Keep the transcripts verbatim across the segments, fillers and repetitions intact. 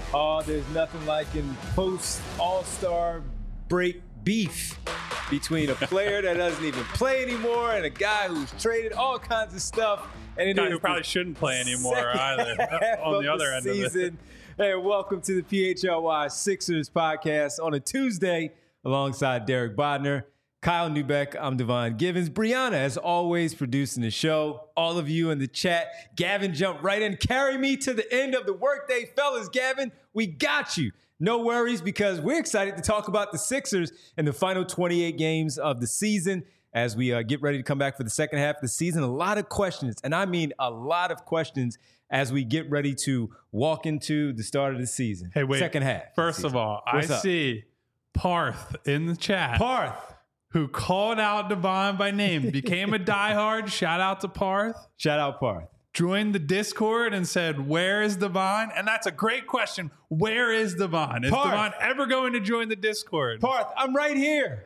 Oh, there's nothing like in post All-Star break beef between a player that doesn't even play anymore and a guy who's traded, all kinds of stuff. And it guy is who probably shouldn't play anymore either. On the other end of it. Hey, welcome to the P H L Y Sixers podcast on a Tuesday alongside Derek Bodner, Kyle Neubeck. I'm Devon Givens. Brianna, as always, producing the show. All of you in the chat. Gavin jumped right in. Carry me to the end of the workday, fellas. Gavin, we got you. No worries, because we're excited to talk about the Sixers and the final twenty-eight games of the season as we uh, get ready to come back for the second half of the season. A lot of questions, and I mean a lot of questions as we get ready to walk into the start of the season. Hey, wait. Second half. First of all, What's I up? see Parth in the chat. Parth. Who called out Devon by name, became a diehard. Shout out to Parth. Shout out Parth. Joined the Discord and said, where is Devon? And that's a great question. Where is Devon? Is Parth. Devon ever going to join the Discord? Parth, I'm right here.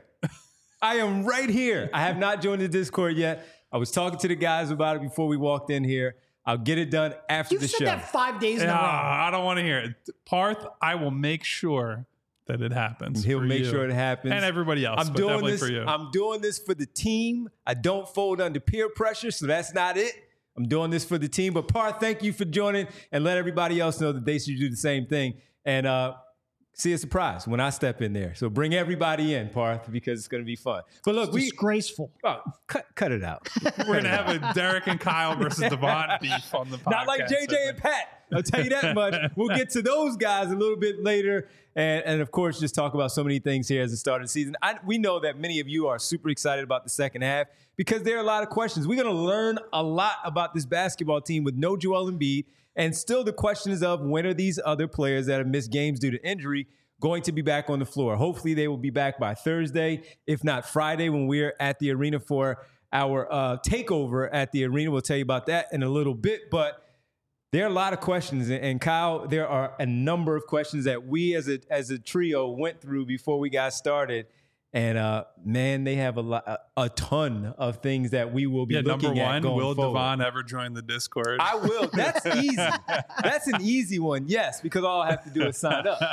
I am right here. I have not joined the Discord yet. I was talking to the guys about it before we walked in here. I'll get it done after You've the said show. that five days in uh, a row. I don't want to hear it. Parth, I will make sure that it happens. He'll make you. sure it happens. And everybody else, I'm but doing definitely this, for you. I'm doing this for the team. I don't fold under peer pressure, so that's not it. I'm doing this for the team. But Parth, thank you for joining, and let everybody else know that they should do the same thing. And uh, see a surprise when I step in there. So bring everybody in, Parth, because it's going to be fun. But look, it's we disgraceful. oh, cut cut it out. We're going to have a Derek and Kyle versus Devon beef on the podcast. Not like J J and Pat. I'll tell you that much. We'll get to those guys a little bit later. And, and of course, just talk about so many things here as the start of the season. I, we know that many of you are super excited about the second half because there are a lot of questions. We're going to learn a lot about this basketball team with no Joel Embiid. And still the question is of when are these other players that have missed games due to injury going to be back on the floor? Hopefully they will be back by Thursday, if not Friday, when we're at the arena for our uh, takeover at the arena. We'll tell you about that in a little bit. But there are a lot of questions, and Kyle, there are a number of questions that we as a as a trio went through before we got started. And uh, man, they have a lot, a, a ton of things that we will be yeah, looking number at one, going will forward. Devon ever join the Discord? I will. That's easy. That's an easy one. Yes, because all I have to do is sign up.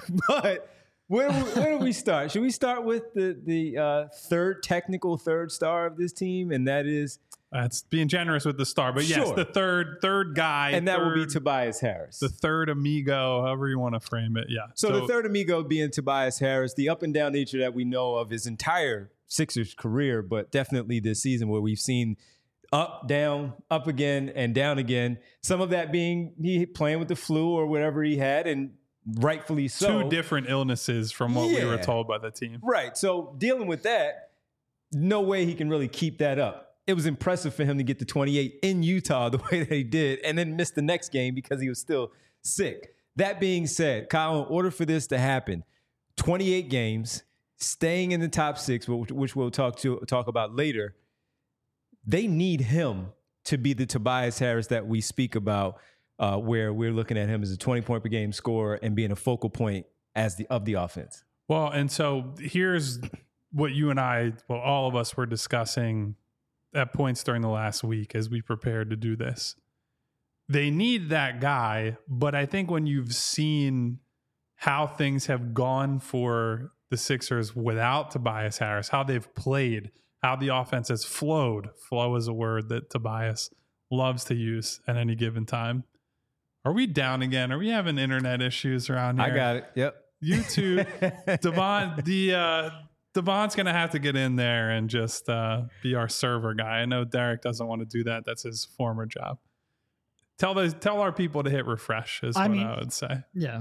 But where where do we start? Should we start with the the uh, third technical third star of this team, and that is? That's being generous with the star, but yes, Sure. the third third guy, and that third, will be Tobias Harris, the third amigo, however you want to frame it. Yeah. So, so the third amigo being Tobias Harris, the up and down nature that we know of his entire Sixers career, but definitely this season where we've seen up, down, up again, and down again. Some of that being he playing with the flu or whatever he had, and rightfully so. Two different illnesses from what yeah. we were told by the team. Right. So dealing with that, no way he can really keep that up. It was impressive for him to get to twenty-eight in Utah the way that he did and then miss the next game because he was still sick. That being said, Kyle, in order for this to happen, twenty-eight games, staying in the top six, which we'll talk to talk about later, they need him to be the Tobias Harris that we speak about, uh, where we're looking at him as a twenty-point per game scorer and being a focal point as the of the offense. Well, and so here's what you and I, well, all of us were discussing at points during the last week as we prepared to do this. They need that guy, but I think when you've seen how things have gone for the Sixers without Tobias Harris, how they've played, how the offense has flowed. Flow is a word that Tobias loves to use at any given time. Are we down again? Are we having internet issues around here? I got it. Yep. You too. Devon, the uh, Devon's going to have to get in there and just uh, be our server guy. I know Derek doesn't want to do that. That's his former job. Tell those, tell our people to hit refresh is I what mean, I would say. Yeah.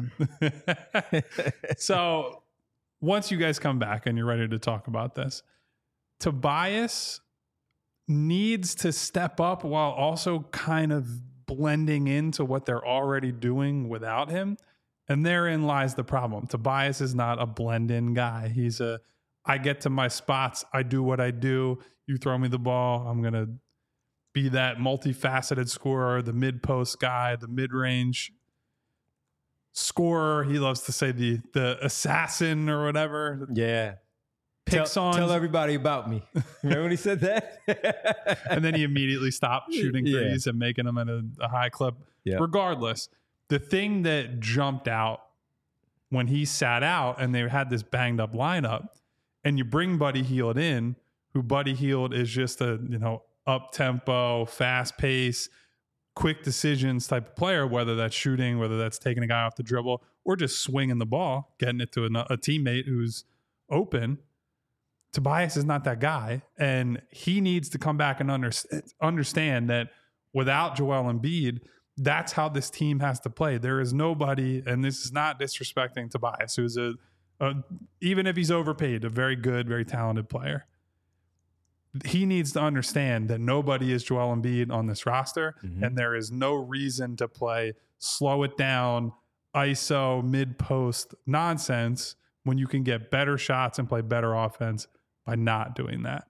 So once you guys come back and you're ready to talk about this, Tobias needs to step up while also kind of blending into what they're already doing without him. And therein lies the problem. Tobias is not a blend-in guy. He's a, I get to my spots, I do what I do, you throw me the ball, I'm going to be that multifaceted scorer, the mid-post guy, the mid-range scorer. He loves to say the the assassin or whatever. Yeah. Picks tell, on. Tell everybody about me. Remember when he said that? And then he immediately stopped shooting Yeah. threes and making them at a, a high clip. Yeah. Regardless, the thing that jumped out when he sat out and they had this banged up lineup, and you bring Buddy Hield in, who Buddy Hield is just a, you know, up tempo, fast pace, quick decisions type of player, whether that's shooting, whether that's taking a guy off the dribble, or just swinging the ball, getting it to a, a teammate who's open. Tobias is not that guy, and he needs to come back and under, understand that without Joel Embiid, that's how this team has to play. There is nobody, and this is not disrespecting Tobias, who's a, a even if he's overpaid, a very good, very talented player. He needs to understand that nobody is Joel Embiid on this roster, mm-hmm. and there is no reason to play slow it down, I S O, mid-post nonsense when you can get better shots and play better offense by not doing that.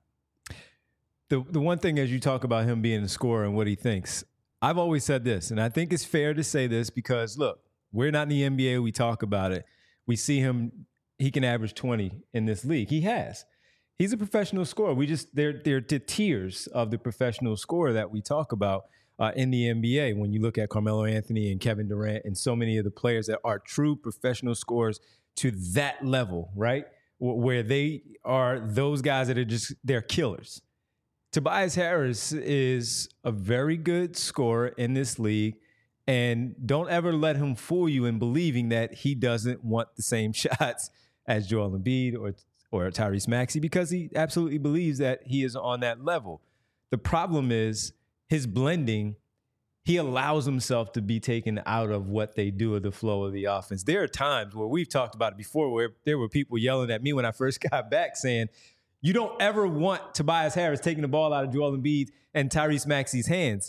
The the one thing as you talk about him being a scorer and what he thinks, I've always said this, and I think it's fair to say this because, look, we're not in the N B A. We talk about it. We see him. He can average twenty in this league. He has. He's a professional scorer. We just they're they're the tiers of the professional scorer that we talk about uh, in the N B A. When you look at Carmelo Anthony and Kevin Durant and so many of the players that are true professional scorers to that level, right, where they are those guys that are just they're killers. Tobias Harris is a very good scorer in this league, and don't ever let him fool you in believing that he doesn't want the same shots as Joel Embiid or or Tyrese Maxey, because he absolutely believes that he is on that level. The problem is his blending. He allows himself to be taken out of what they do of the flow of the offense. There are times where we've talked about it before where there were people yelling at me when I first got back saying, you don't ever want Tobias Harris taking the ball out of Joel Embiid and Tyrese Maxey's hands.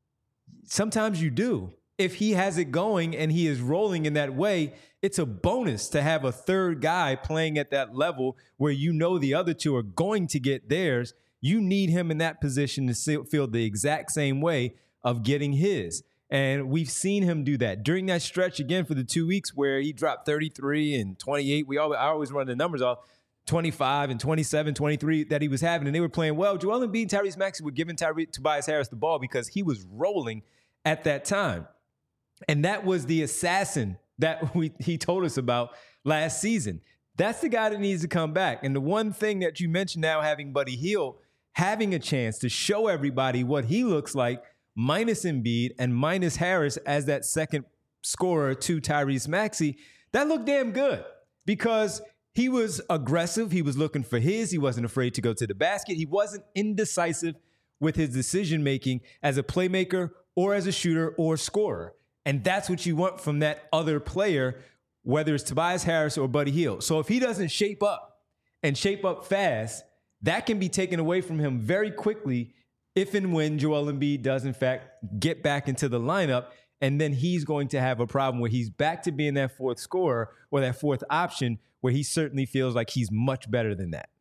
Sometimes you do. If he has it going and he is rolling in that way, it's a bonus to have a third guy playing at that level where you know the other two are going to get theirs. You need him in that position to feel the exact same way of getting his. And we've seen him do that during that stretch again for the two weeks where he dropped thirty-three and twenty-eight. We always, I always run the numbers off. twenty-five and twenty-seven, twenty-three that he was having, and they were playing well. Joel Embiid and Tyrese Maxey were giving Tyrese, Tobias Harris the ball because he was rolling at that time. And that was the assassin that we, he told us about last season. That's the guy that needs to come back. And the one thing that you mentioned now, having Buddy Hield, having a chance to show everybody what he looks like, minus Embiid and minus Harris as that second scorer to Tyrese Maxey, that looked damn good because he was aggressive. He was looking for his. He wasn't afraid to go to the basket. He wasn't indecisive with his decision-making as a playmaker or as a shooter or scorer. And that's what you want from that other player, whether it's Tobias Harris or Buddy Hield. So if he doesn't shape up and shape up fast, that can be taken away from him very quickly if and when Joel Embiid does, in fact, get back into the lineup. And then he's going to have a problem where he's back to being that fourth scorer or that fourth option where he certainly feels like he's much better than that.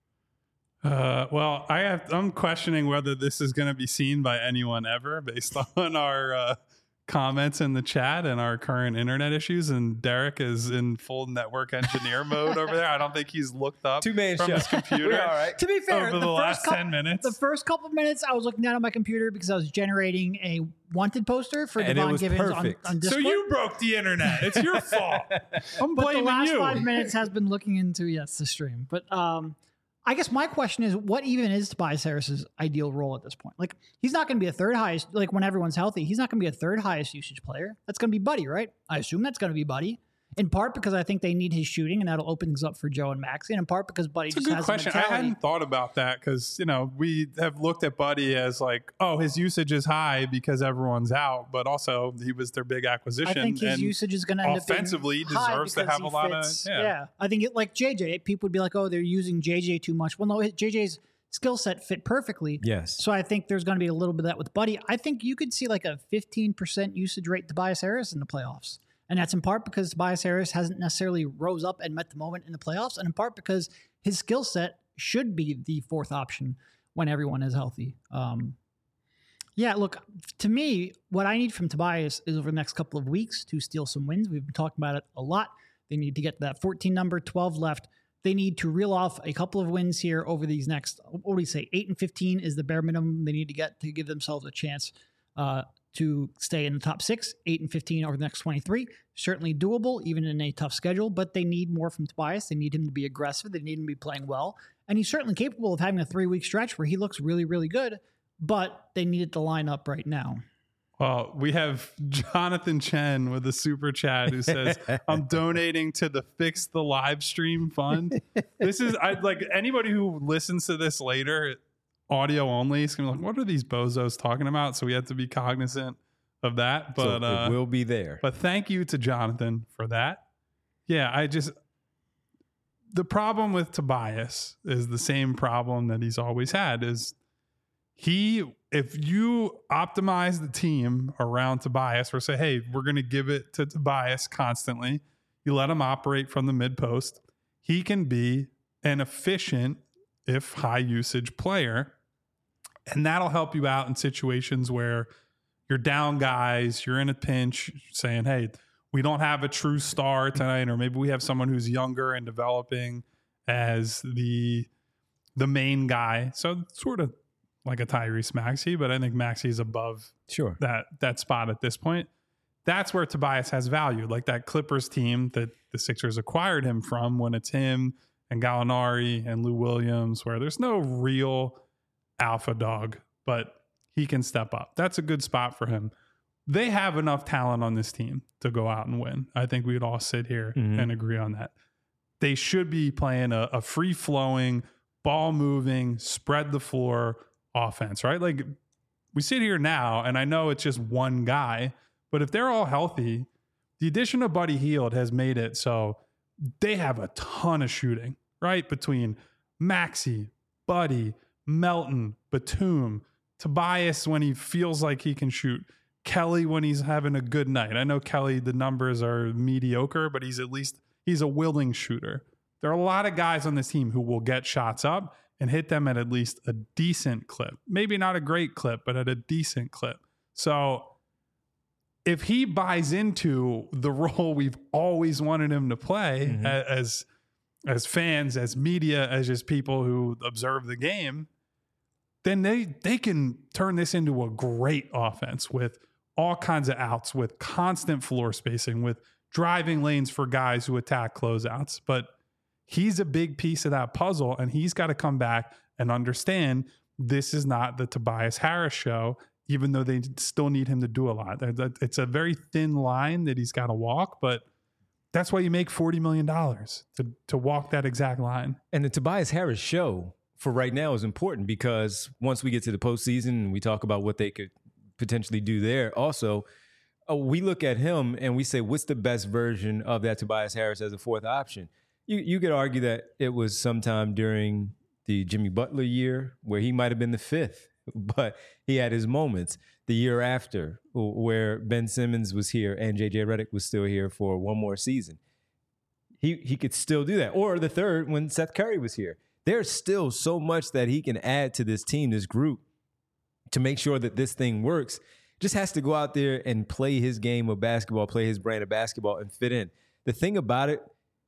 Uh, well, I have, I'm questioning whether this is going to be seen by anyone ever based on our uh, comments in the chat and our current internet issues. And Derek is in full network engineer mode over there. I don't think he's looked up Two-man from show. his computer. All right. To be fair, over the, the last first couple, ten minutes. The first couple of minutes, I was looking down on my computer because I was generating a wanted poster for And it Devon was Givens on, perfect. on So Discord. you broke the internet. It's your fault. I'm But blaming the last you. five minutes has been looking into, yes, the stream. But um, I guess my question is, what even is Tobias Harris's ideal role at this point? Like, he's not going to be a third highest, like when everyone's healthy, he's not going to be a third highest usage player. That's going to be Buddy, right? I assume that's going to be Buddy. In part because I think they need his shooting, and that'll open things up for Joe and Maxey. And in part because Buddy It's a just good has question. a I mentality. hadn't thought about that because, you know, we have looked at Buddy as like, oh, his usage is high because everyone's out, but also he was their big acquisition. I think his and usage is going to end up being offensively high deserves to because have he a lot fits- of yeah. yeah. I think it, like J J, people would be like, oh, they're using J J too much. Well, no, J J's skill set fit perfectly. Yes. So I think there's going to be a little bit of that with Buddy. I think you could see like a fifteen percent usage rate Tobias Harris in the playoffs. And that's in part because Tobias Harris hasn't necessarily rose up and met the moment in the playoffs, and in part because his skill set should be the fourth option when everyone is healthy. Um, yeah, look, to me, what I need from Tobias is over the next couple of weeks to steal some wins. We've been talking about it a lot. They need to get to that fourteen number, twelve left. They need to reel off a couple of wins here over these next, what do we say, eight and fifteen is the bare minimum they need to get to give themselves a chance uh, to stay in the top six, eight and fifteen over the next twenty-three. Certainly doable, even in a tough schedule, but they need more from Tobias. They need him to be aggressive. They need him to be playing well. And he's certainly capable of having a three-week stretch where he looks really, really good, but they need it to line up right now. Well, we have Jonathan Chen with a super chat who says, I'm donating to the Fix the Live Stream Fund. This is, I'd like anybody who listens to this later, audio only, is going to be like, what are these bozos talking about? So we have to be cognizant of that. But so uh, it will be there. But thank you to Jonathan for that. Yeah, I just, the problem with Tobias is the same problem that he's always had is he, if you optimize the team around Tobias or say, hey, we're going to give it to Tobias constantly, you let him operate from the mid post, he can be an efficient, if high usage player. And that'll help you out in situations where you're down guys, you're in a pinch saying, hey, we don't have a true star tonight, or maybe we have someone who's younger and developing as the the main guy. So sort of like a Tyrese Maxey, but I think Maxey is above sure. that that spot at this point. That's where Tobias has value, like that Clippers team that the Sixers acquired him from when it's him and Gallinari and Lou Williams, where there's no real alpha dog, but he can step up. That's a good spot for him. They have enough talent on this team to go out and win. I think we'd all sit here mm-hmm. and agree on that. They should be playing a, a free-flowing, ball-moving, spread the floor offense, right? Like we sit here now, and I know it's just one guy, but if they're all healthy, the addition of Buddy Hield has made it so they have a ton of shooting, right? Between Maxey, Buddy, Melton, Batum, Tobias when he feels like he can shoot, Kelly when he's having a good night. I know Kelly, the numbers are mediocre, but he's at least, he's a willing shooter. There are a lot of guys on this team who will get shots up and hit them at at least a decent clip. Maybe not a great clip, but at a decent clip. So if he buys into the role we've always wanted him to play mm-hmm. as, as fans, as media, as just people who observe the game, then they, they can turn this into a great offense with all kinds of outs, with constant floor spacing, with driving lanes for guys who attack closeouts. But he's a big piece of that puzzle, and he's got to come back and understand this is not the Tobias Harris show, even though they still need him to do a lot. It's a very thin line that he's got to walk, but that's why you make forty million dollars to, to walk that exact line. And the Tobias Harris show for right now is important because once we get to the postseason and we talk about what they could potentially do there, also, uh, we look at him and we say, what's the best version of that Tobias Harris as a fourth option? You you could argue that it was sometime during the Jimmy Butler year where he might have been the fifth, but he had his moments. The year after where Ben Simmons was here and J J Redick was still here for one more season. He he could still do that. Or the third when Seth Curry was here. There's still so much that he can add to this team, this group, to make sure that this thing works. Just has to go out there and play his game of basketball, play his brand of basketball and fit in. The thing about it,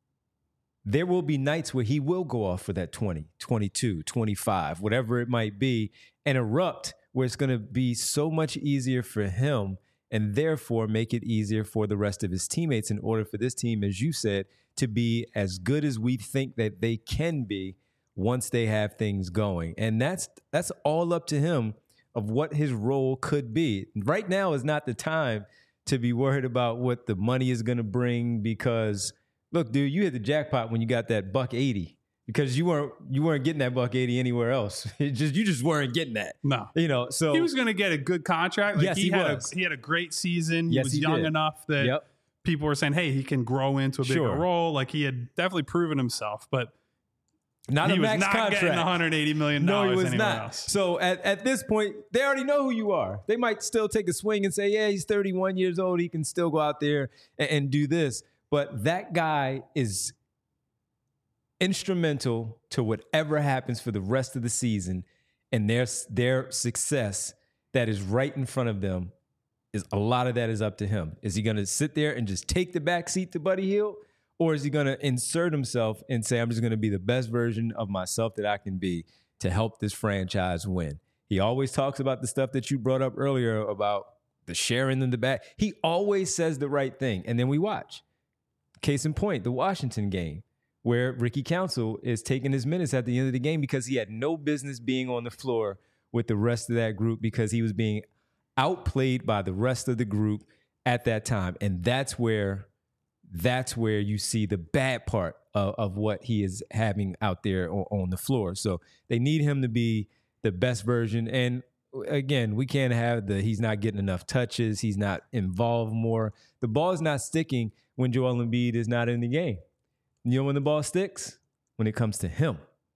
there will be nights where he will go off for that twenty, twenty-two, twenty-five, whatever it might be, and erupt where it's going to be so much easier for him and therefore make it easier for the rest of his teammates in order for this team, as you said, to be as good as we think that they can be once they have things going. And that's that's all up to him of what his role could be. Right now is not the time to be worried about what the money is going to bring because, look, dude, you hit the jackpot when you got that buck eighty. Because you weren't you weren't getting that buck eighty anywhere else. It just you just weren't getting that. No, you know. So he was going to get a good contract. Like yes, he, he had was. A, he had a great season. He yes, was he young did. enough that yep. people were saying, "Hey, he can grow into a bigger sure. role." Like he had definitely proven himself, but not he a was max not contract. getting one hundred eighty million dollars. No, he was anywhere not. Else. So at at this point, they already know who you are. They might still take a swing and say, "Yeah, he's thirty-one years old. He can still go out there and, and do this." But that guy is instrumental to whatever happens for the rest of the season, and their their success that is right in front of them is a lot of that is up to him. Is he going to sit there and just take the back seat to Buddy Hield, or is he going to insert himself and say, I'm just going to be the best version of myself that I can be to help this franchise win? He always talks about the stuff that you brought up earlier about the sharing in the back. He always says the right thing. And then we watch. Case in point, the Washington game, where Ricky Council is taking his minutes at the end of the game because he had no business being on the floor with the rest of that group because he was being outplayed by the rest of the group at that time. And that's where that's where you see the bad part of, of what he is having out there on, on the floor. So they need him to be the best version. And again, we can't have the he's not getting enough touches, he's not involved more. The ball is not sticking when Joel Embiid is not in the game. You know when the ball sticks? When it comes to him.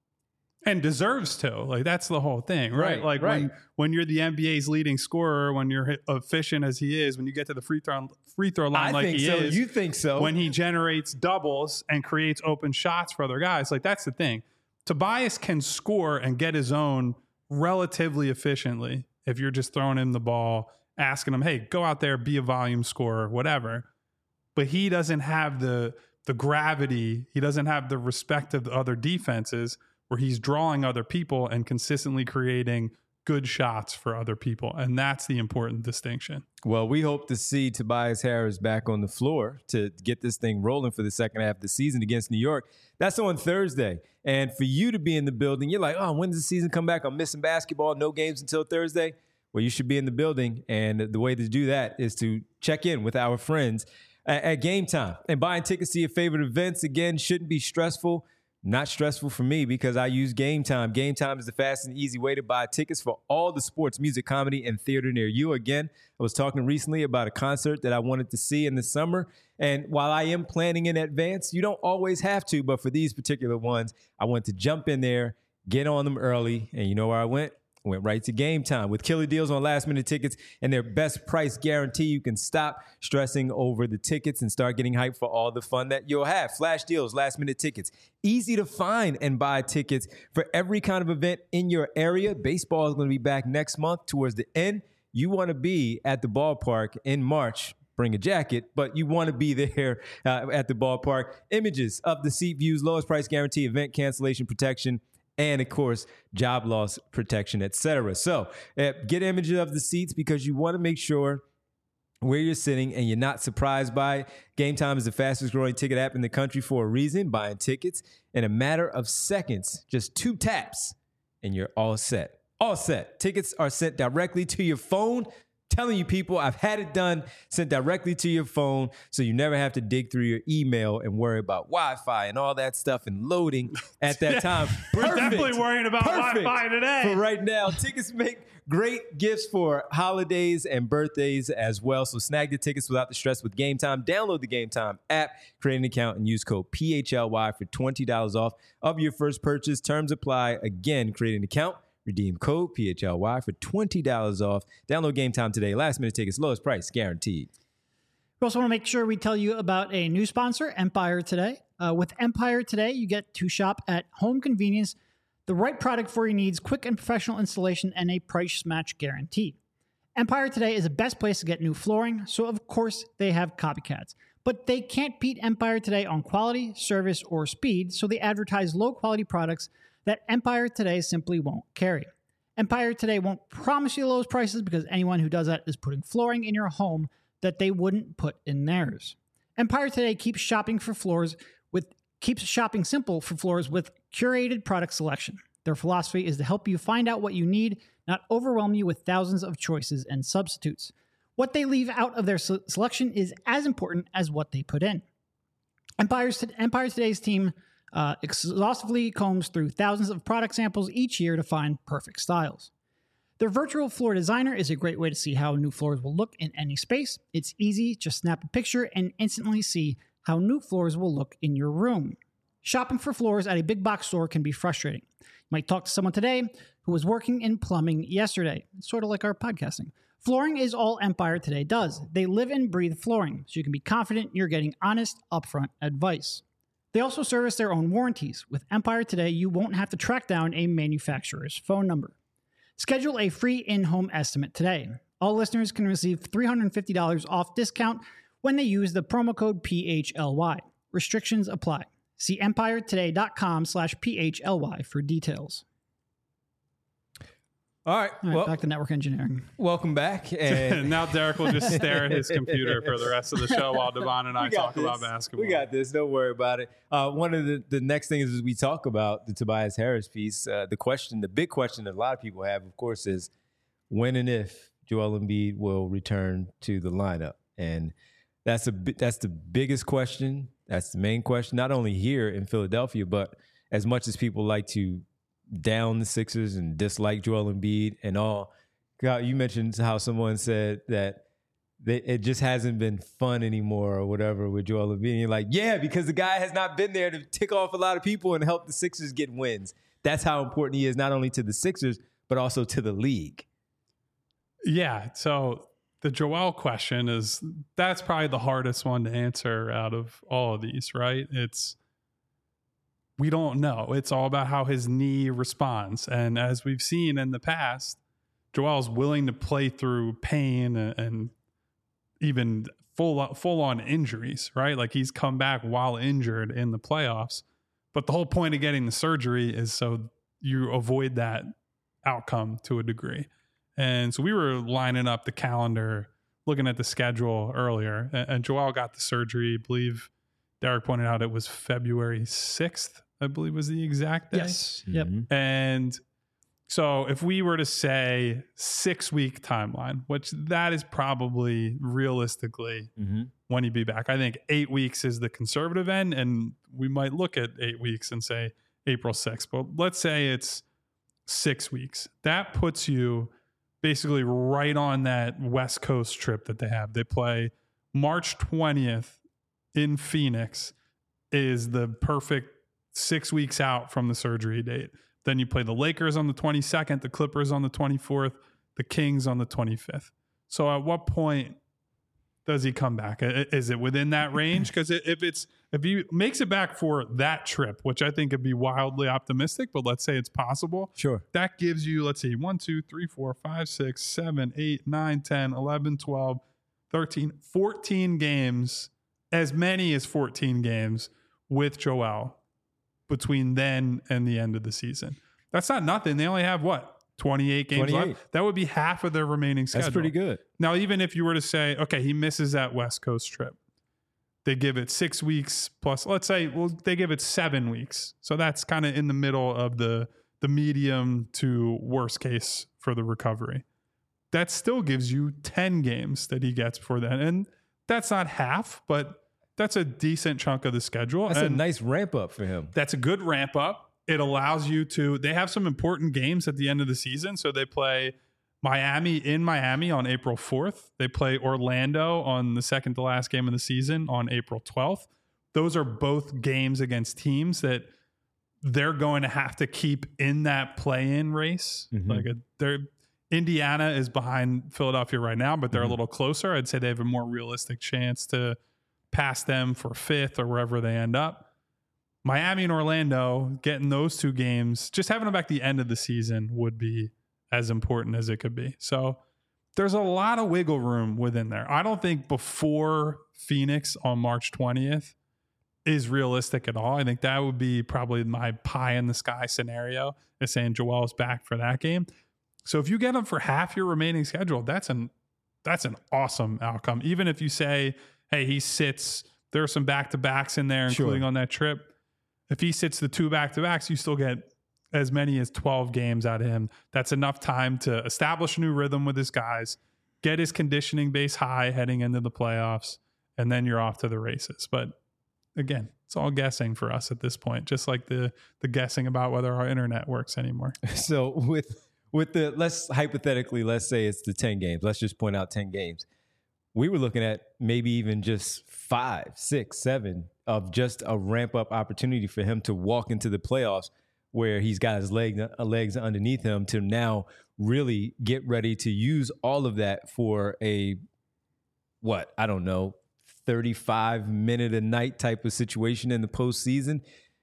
And deserves to. Like, that's the whole thing, right? Right, like, right. when when you're the N B A's leading scorer, when you're hit- efficient as he is, when you get to the free throw free throw line I like think he so. is. You think so. When he generates doubles and creates open shots for other guys. Like, that's the thing. Tobias can score and get his own relatively efficiently if you're just throwing him the ball, asking him, hey, go out there, be a volume scorer, whatever. But he doesn't have the the gravity. He doesn't have the respect of the other defenses where he's drawing other people and consistently creating good shots for other people. And that's the important distinction. Well, we hope to see Tobias Harris back on the floor to get this thing rolling for the second half of the season against New York. That's on Thursday. And for you to be in the building, you're like, oh, when does the season come back? I'm missing basketball, no games until Thursday. Well, you should be in the building. And the way to do that is to check in with our friends at, at Game Time. And buying tickets to your favorite events, again, shouldn't be stressful. Not stressful for me because I use Game Time. Game Time is the fast and easy way to buy tickets for all the sports, music, comedy, and theater near you. Again, I was talking recently about a concert that I wanted to see in the summer. And while I am planning in advance, you don't always have to. But for these particular ones, I want to jump in there, get on them early. And you know where I went? I went right to Game Time. With killer deals on last-minute tickets and their best price guarantee, you can stop stressing over the tickets and start getting hyped for all the fun that you'll have. Flash deals, last-minute tickets. Easy to find and buy tickets for every kind of event in your area. Baseball is going to be back next month towards the end. You want to be at the ballpark in March. Bring a jacket, but you want to be there uh, at the ballpark. Images of the seat views, lowest price guarantee, event cancellation protection, and, of course, job loss protection, et cetera. So uh, get images of the seats because you want to make sure where you're sitting and you're not surprised by it. Game Time is the fastest growing ticket app in the country for a reason. Buying tickets in a matter of seconds, just two taps, and you're all set. All set. Tickets are sent directly to your phone. Telling you people, I've had it done, sent directly to your phone, so you never have to dig through your email and worry about Wi-Fi and all that stuff and loading at that time. We're Perfect. definitely worrying about Perfect Wi-Fi today. For right now, tickets make great gifts for holidays and birthdays as well. So snag the tickets without the stress with Game Time. Download the Game Time app, create an account, and use code P H L Y for twenty dollars off of your first purchase. Terms apply. Again, create an account. Redeem code P H L Y for twenty dollars off. Download Game Time today. Last minute tickets, lowest price guaranteed. We also want to make sure we tell you about a new sponsor, Empire Today. Uh, with Empire Today, you get to shop at home convenience, the right product for your needs, quick and professional installation, and a price match guarantee. Empire Today is the best place to get new flooring, so of course they have copycats. But they can't beat Empire Today on quality, service, or speed, so they advertise low-quality products that Empire Today simply won't carry. Empire Today won't promise you the lowest prices because anyone who does that is putting flooring in your home that they wouldn't put in theirs. Empire Today keeps shopping for floors with keeps shopping simple for floors with curated product selection. Their philosophy is to help you find out what you need, not overwhelm you with thousands of choices and substitutes. What they leave out of their se- selection is as important as what they put in. Empire's, Empire Today's team Uh, exhaustively combs through thousands of product samples each year to find perfect styles. Their virtual floor designer is a great way to see how new floors will look in any space. It's easy, just snap a picture and instantly see how new floors will look in your room. Shopping for floors at a big box store can be frustrating. You might talk to someone today who was working in plumbing yesterday. It's sort of like our podcasting. Flooring is all Empire Today does. They live and breathe flooring, so you can be confident you're getting honest, upfront advice. They also service their own warranties. With Empire Today, you won't have to track down a manufacturer's phone number. Schedule a free in-home estimate today. All listeners can receive three hundred fifty dollars off discount when they use the promo code P H L Y. Restrictions apply. See empiretoday.com slash P H L Y for details. All right. All right, Well, back to network engineering. welcome back. And Now Derek will just stare at his computer for the rest of the show while Devon and I we got talk this. about basketball. We got this. Don't worry about it. Uh, one of the, the next things is we talk about the Tobias Harris piece. Uh, the question, the big question that a lot of people have, of course, is when and if Joel Embiid will return to the lineup. And that's a that's the biggest question. That's the main question, not only here in Philadelphia, but as much as people like to down the Sixers and dislike Joel Embiid and all. God, you mentioned how someone said that they, it just hasn't been fun anymore or whatever with Joel Embiid. And you're like, yeah, because the guy has not been there to tick off a lot of people and help the Sixers get wins. That's how important he is, not only to the Sixers, but also to the league. Yeah. So the Joel question is, that's probably the hardest one to answer out of all of these, right? It's, we don't know. It's all about how his knee responds. And as we've seen in the past, Joel's willing to play through pain and, and even full, full on injuries, right? Like he's come back while injured in the playoffs. But the whole point of getting the surgery is so you avoid that outcome to a degree. And so we were lining up the calendar, looking at the schedule earlier, and, and Joel got the surgery. I believe Derek pointed out it was February sixth, I believe was the exact day. Yes. Yep. And so if we were to say six week timeline, which that is probably realistically Mm-hmm. when he'd be back, I think eight weeks is the conservative end. And we might look at eight weeks and say April sixth, but let's say it's six weeks. That puts you basically right on that West Coast trip that they have. They play March twentieth in Phoenix is the perfect six weeks out from the surgery date. Then you play the Lakers on the twenty-second, the Clippers on the twenty-fourth, the Kings on the twenty-fifth. So at what point does he come back? Is it within that range? Because if it's if he makes it back for that trip, which I think would be wildly optimistic, but let's say it's possible. Sure. That gives you, let's see, one, two, three, four, five, six, seven, eight, nine, ten, eleven, twelve, thirteen, fourteen games, as many as fourteen games with Joel between then and the end of the season. That's not nothing. They only have what? twenty-eight games twenty-eight. left. That would be half of their remaining schedule. That's pretty good. Now, even if you were to say, okay, he misses that West Coast trip, they give it six weeks plus, let's say, well, they give it seven weeks. So that's kind of in the middle of the, the medium to worst case for the recovery. That still gives you ten games that he gets before then. And that's not half, but that's a decent chunk of the schedule. That's and a nice ramp up for him. That's a good ramp up. It allows you to, they have some important games at the end of the season. So they play Miami in Miami on April fourth. They play Orlando on the second to last game of the season on April twelfth. Those are both games against teams that they're going to have to keep in that play-in race. Mm-hmm. Like a, they're Indiana is behind Philadelphia right now, but they're Mm-hmm. a little closer. I'd say they have a more realistic chance to pass them for fifth or wherever they end up. Miami and Orlando, getting those two games, just having them back the end of the season would be as important as it could be. So there's a lot of wiggle room within there. I don't think before Phoenix on March twentieth is realistic at all. I think that would be probably my pie in the sky scenario, is saying Joel's back for that game. So if you get him for half your remaining schedule, that's an that's an awesome outcome. Even if you say, hey, he sits, there are some back-to-backs in there, including Sure. on that trip. If he sits the two back-to-backs, you still get as many as twelve games out of him. That's enough time to establish a new rhythm with his guys, get his conditioning base high heading into the playoffs, and then you're off to the races. But again, it's all guessing for us at this point, just like the the guessing about whether our internet works anymore. So with with the, let's hypothetically, let's say it's the ten games. Let's just point out ten games. We were looking at maybe even just five, six, seven of just a ramp up opportunity for him to walk into the playoffs where he's got his leg, uh, legs underneath him to now really get ready to use all of that for a, what, I don't know, thirty-five minute a night type of situation in the postseason.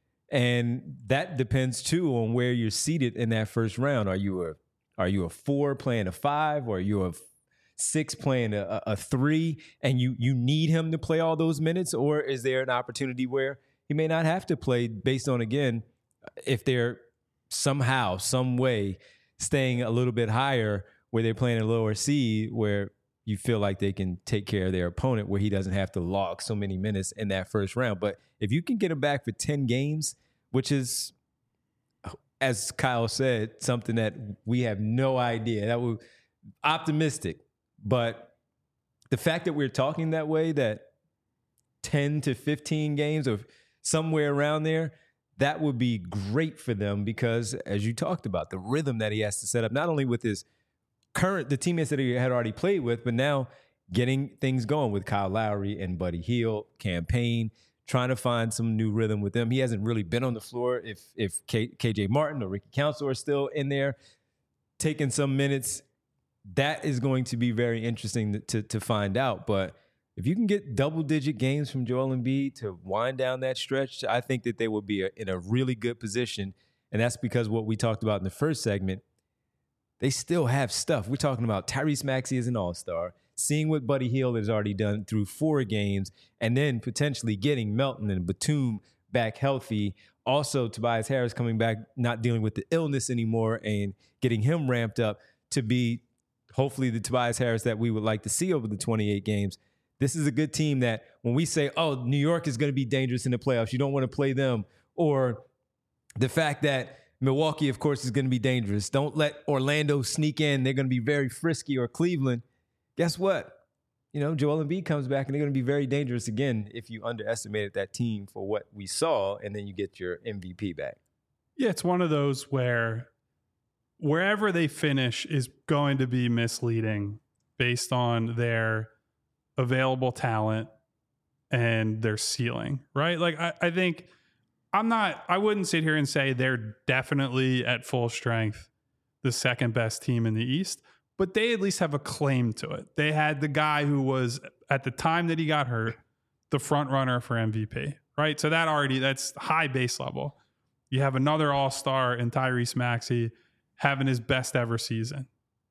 And that depends too on where you're seated in that first round. Are you a, are you a four playing a five, or are you a six playing a, a three, and you you need him to play all those minutes? Or is there an opportunity where he may not have to play based on, again, if they're somehow, some way staying a little bit higher where they're playing a lower seed where you feel like they can take care of their opponent where he doesn't have to log so many minutes in that first round. But if you can get him back for ten games, which is, as Kyle said, something that we have no idea. That was optimistic. But the fact that we're talking that way, that ten to fifteen games or somewhere around there, that would be great for them because, as you talked about, the rhythm that he has to set up, not only with his current, the teammates that he had already played with, but now getting things going with Kyle Lowry and Buddy Hield, campaign, trying to find some new rhythm with them. He hasn't really been on the floor if if K, KJ Martin or Ricky Council are still in there taking some minutes. That is going to be very interesting to, to find out. But if you can get double-digit games from Joel Embiid to wind down that stretch, I think that they will be a, in a really good position. And that's because what we talked about in the first segment, they still have stuff. We're talking about Tyrese Maxey as an all-star, seeing what Buddy Hield has already done through four games, and then potentially getting Melton and Batum back healthy. Also, Tobias Harris coming back, not dealing with the illness anymore, and getting him ramped up to be hopefully the Tobias Harris that we would like to see over the twenty-eight games. This is a good team that when we say, oh, New York is going to be dangerous in the playoffs, you don't want to play them, or the fact that Milwaukee, of course, is going to be dangerous. Don't let Orlando sneak in. They're going to be very frisky, or Cleveland. Guess what? You know, Joel Embiid comes back, and they're going to be very dangerous again if you underestimated that team for what we saw, and then you get your M V P back. Yeah, it's one of those where wherever they finish is going to be misleading based on their available talent and their ceiling, right? Like, I, I think I'm not, I wouldn't sit here and say they're definitely at full strength the second best team in the East, but they at least have a claim to it. They had the guy who was, at the time that he got hurt, the front runner for M V P, right? So that already, that's high base level. You have another all-star in Tyrese Maxey having his best ever season.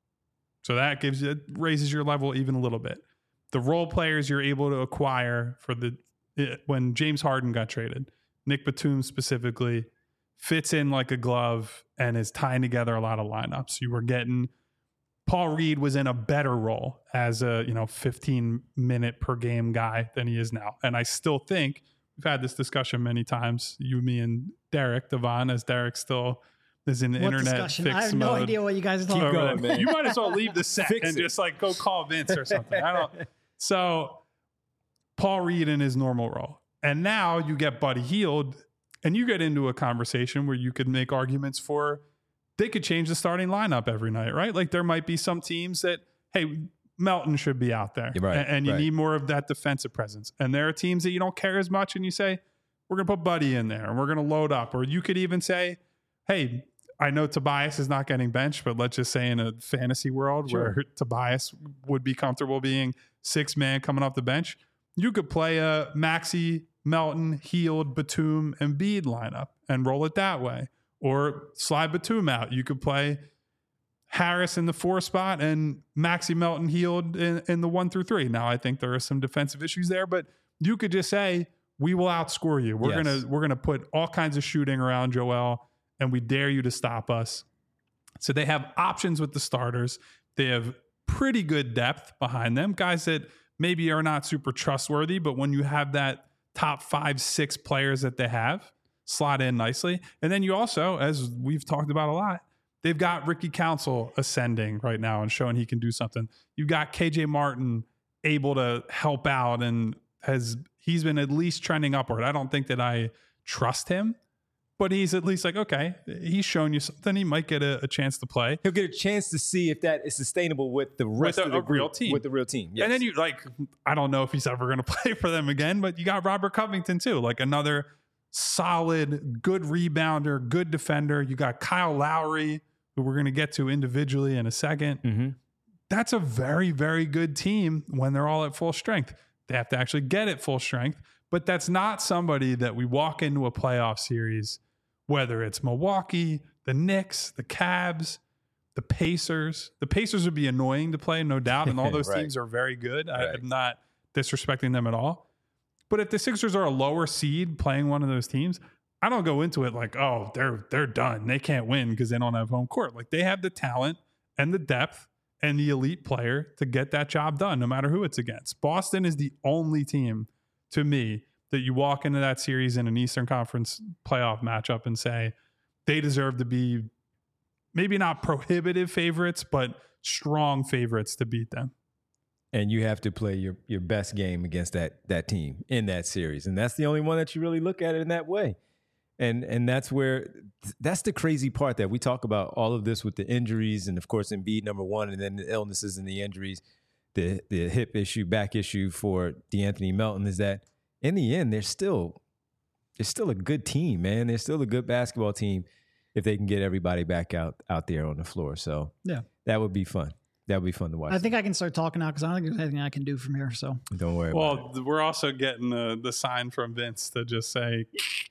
So that gives you, raises your level even a little bit. The role players you're able to acquire for the, when James Harden got traded, Nick Batum specifically, fits in like a glove and is tying together a lot of lineups. You were getting, Paul Reed was in a better role as a, you know, fifteen minute per game guy than he is now. And I still think, we've had this discussion many times, you, me, and Derek Devon, as Derek still is in the what internet discussion? fix I have mode. no idea what you guys are talking Keep about. going, man. You might as well leave the set Fix and it. just like go call Vince or something. I don't. So Paul Reed in his normal role. And now you get Buddy Hield, and you get into a conversation where you could make arguments for they could change the starting lineup every night, right? Like there might be some teams that, hey, Melton should be out there. Right, and, and you right. need more of that defensive presence. And there are teams that you don't care as much, and you say, we're going to put Buddy in there and we're going to load up. Or you could even say, hey, I know Tobias is not getting benched, but let's just say in a fantasy world Sure. where Tobias would be comfortable being six man coming off the bench, you could play a Maxey, Melton, Hield, Batum, Embiid lineup and roll it that way. Or slide Batum out. You could play Harris in the four spot and Maxey, Melton, Hield in, in the one through three. Now, I think there are some defensive issues there, but you could just say, we will outscore you. We're Yes. gonna we're gonna put all kinds of shooting around Joel, and we dare you to stop us. So they have options with the starters. They have pretty good depth behind them. Guys that maybe are not super trustworthy, but when you have that top five, six players that they have, slot in nicely. And then you also, as we've talked about a lot, they've got Ricky Council ascending right now and showing he can do something. You've got K J Martin able to help out, and has he's been at least trending upward. I don't think that I trust him, but he's at least like, okay, he's shown you something. He might get a, a chance to play. He'll get a chance to see if that is sustainable with the rest With a- of the a real group, team. With the real team, yes. And then you like, I don't know if he's ever going to play for them again, but you got Robert Covington too, like another solid, good rebounder, good defender. You got Kyle Lowry, who we're going to get to individually in a second. Mm-hmm. That's a very, very good team when they're all at full strength. They have to actually get at full strength, but that's not somebody that we walk into a playoff series, whether it's Milwaukee, the Knicks, the Cavs, the Pacers. The Pacers would be annoying to play, no doubt, and all those Right. teams are very good. I, Right. I'm not disrespecting them at all. But if the Sixers are a lower seed playing one of those teams, I don't go into it like, oh, they're they're done. They can't win because they don't have home court. Like, they have the talent and the depth and the elite player to get that job done, no matter who it's against. Boston is the only team, to me, that you walk into that series in an Eastern Conference playoff matchup and say they deserve to be maybe not prohibitive favorites, but strong favorites to beat them. And you have to play your, your best game against that that team in that series. And that's the only one that you really look at it in that way. And and that's where, that's the crazy part, that we talk about all of this with the injuries and, of course, Embiid, number one, and then the illnesses and the injuries, the the hip issue, back issue for DeAnthony Melton, is that in the end, they're still, they're still a good team, man. They're still a good basketball team if they can get everybody back out, out there on the floor. So yeah, that would be fun. That would be fun to watch. I think I can start talking now because I don't think there's anything I can do from here. So don't worry well, about it. Well, we're also getting the, the sign from Vince to just say,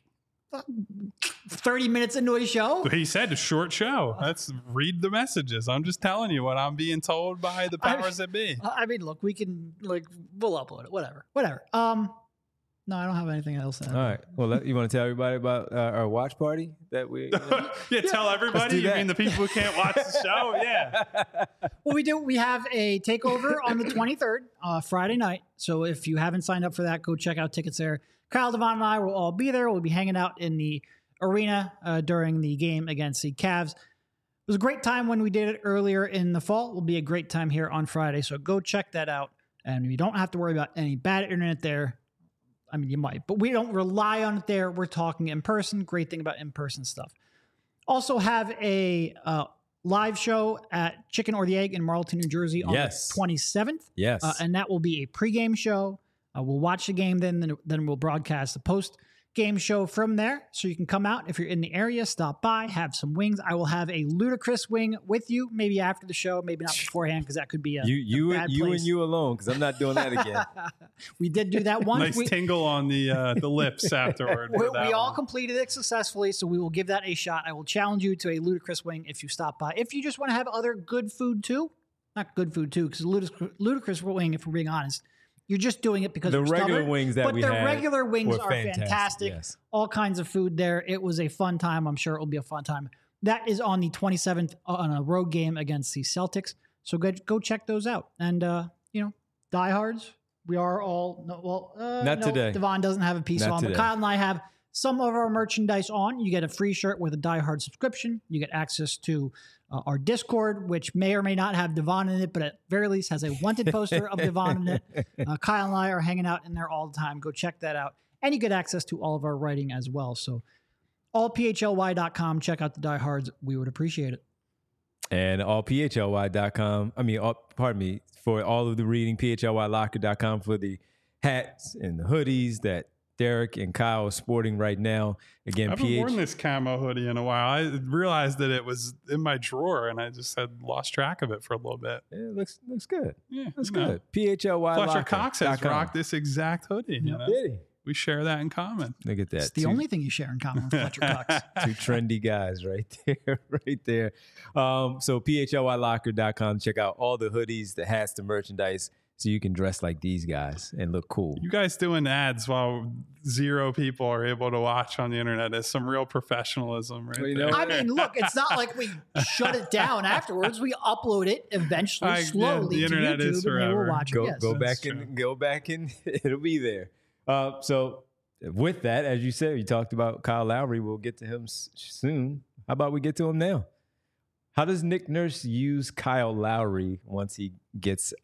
thirty minutes into a show? he said a short show. Let's read the messages. I'm just telling you what I'm being told by the powers I, that be. I mean, look, we can, like, we'll upload it. Whatever. Whatever. Um, no, I don't have anything else. To All right. Well, let, you want to tell everybody about uh, our watch party that we... You know? yeah, tell everybody. You that. mean the people who can't watch the show? Yeah. Well, we do. We have a takeover on the twenty-third, uh, Friday night. So if you haven't signed up for that, go check out tickets there. Kyle, Devon, and I will all be there. We'll be hanging out in the arena uh, during the game against the Cavs. It was a great time when we did it earlier in the fall. It will be a great time here on Friday. So go check that out. And you don't have to worry about any bad internet there. I mean, you might, but we don't rely on it there. We're talking in person. Great thing about in-person stuff. Also have a uh, live show at Chicken or the Egg in Marlton, New Jersey on Yes. the twenty-seventh. Yes. Uh, and that will be a pregame show. Uh, we'll watch the game, then, then then we'll broadcast the post-game show from there. So you can come out if you're in the area, stop by, have some wings. I will have a ludicrous wing with you, maybe after the show, maybe not beforehand, because that could be a you you a and bad you place. and you alone, because I'm not doing that again. We did do that once. Nice we, tingle on the uh, the lips afterward. we, for that we all one. completed it successfully, so we will give that a shot. I will challenge you to a ludicrous wing if you stop by. If you just want to have other good food too, not good food too, because ludicrous, ludicrous wing, if we're being honest, you're just doing it because The we're regular stubborn, wings that but we the had regular wings were are fantastic. fantastic, yes. All kinds of food there. It was a fun time. I'm sure it will be a fun time. That is on the twenty-seventh on a road game against the Celtics. So go go check those out. And uh, you know, diehards, we are all no, well. Uh, Not no, today. Devon doesn't have a piece Not on, today. but Kyle and I have some of our merchandise on. You get a free shirt with a Die Hard subscription. You get access to uh, our Discord, which may or may not have Devon in it, but at very least has a wanted poster of Devon in it. Uh, Kyle and I are hanging out in there all the time. Go check that out. And you get access to all of our writing as well. So all P H L Y dot com. Check out the Die Hards. We would appreciate it. And all P H L Y dot com. I mean, all, pardon me, for all of the reading, P H L Y locker dot com for the hats and the hoodies that Derek and Kyle are sporting right now. Again, I haven't P H. worn this camo hoodie in a while. I realized that it was in my drawer, and I just had lost track of it for a little bit. Yeah, it looks looks good. Yeah, Looks you know. good. P H L Y Fletcher locker Cox has dot com. rocked this exact hoodie. You know? Did he? We share that in common. Look at that. It's the Two- only thing you share in common with Fletcher Cox. Two trendy guys right there, right there. Um, so P H L Y locker dot com. Check out all the hoodies, the hats, the merchandise, so you can dress like these guys and look cool. You guys doing ads while zero people are able to watch on the internet is some real professionalism, right? Well, you there. know I mean, look, it's not like we shut it down afterwards. We upload it eventually, I- yeah, slowly the to internet YouTube, is and they will forever. watch Go it. Yes. go That's back true. and go back and it'll be there. Uh, so with that, as you said, you talked about Kyle Lowry. We'll get to him s- soon. How about we get to him now? How does Nick Nurse use Kyle Lowry once he gets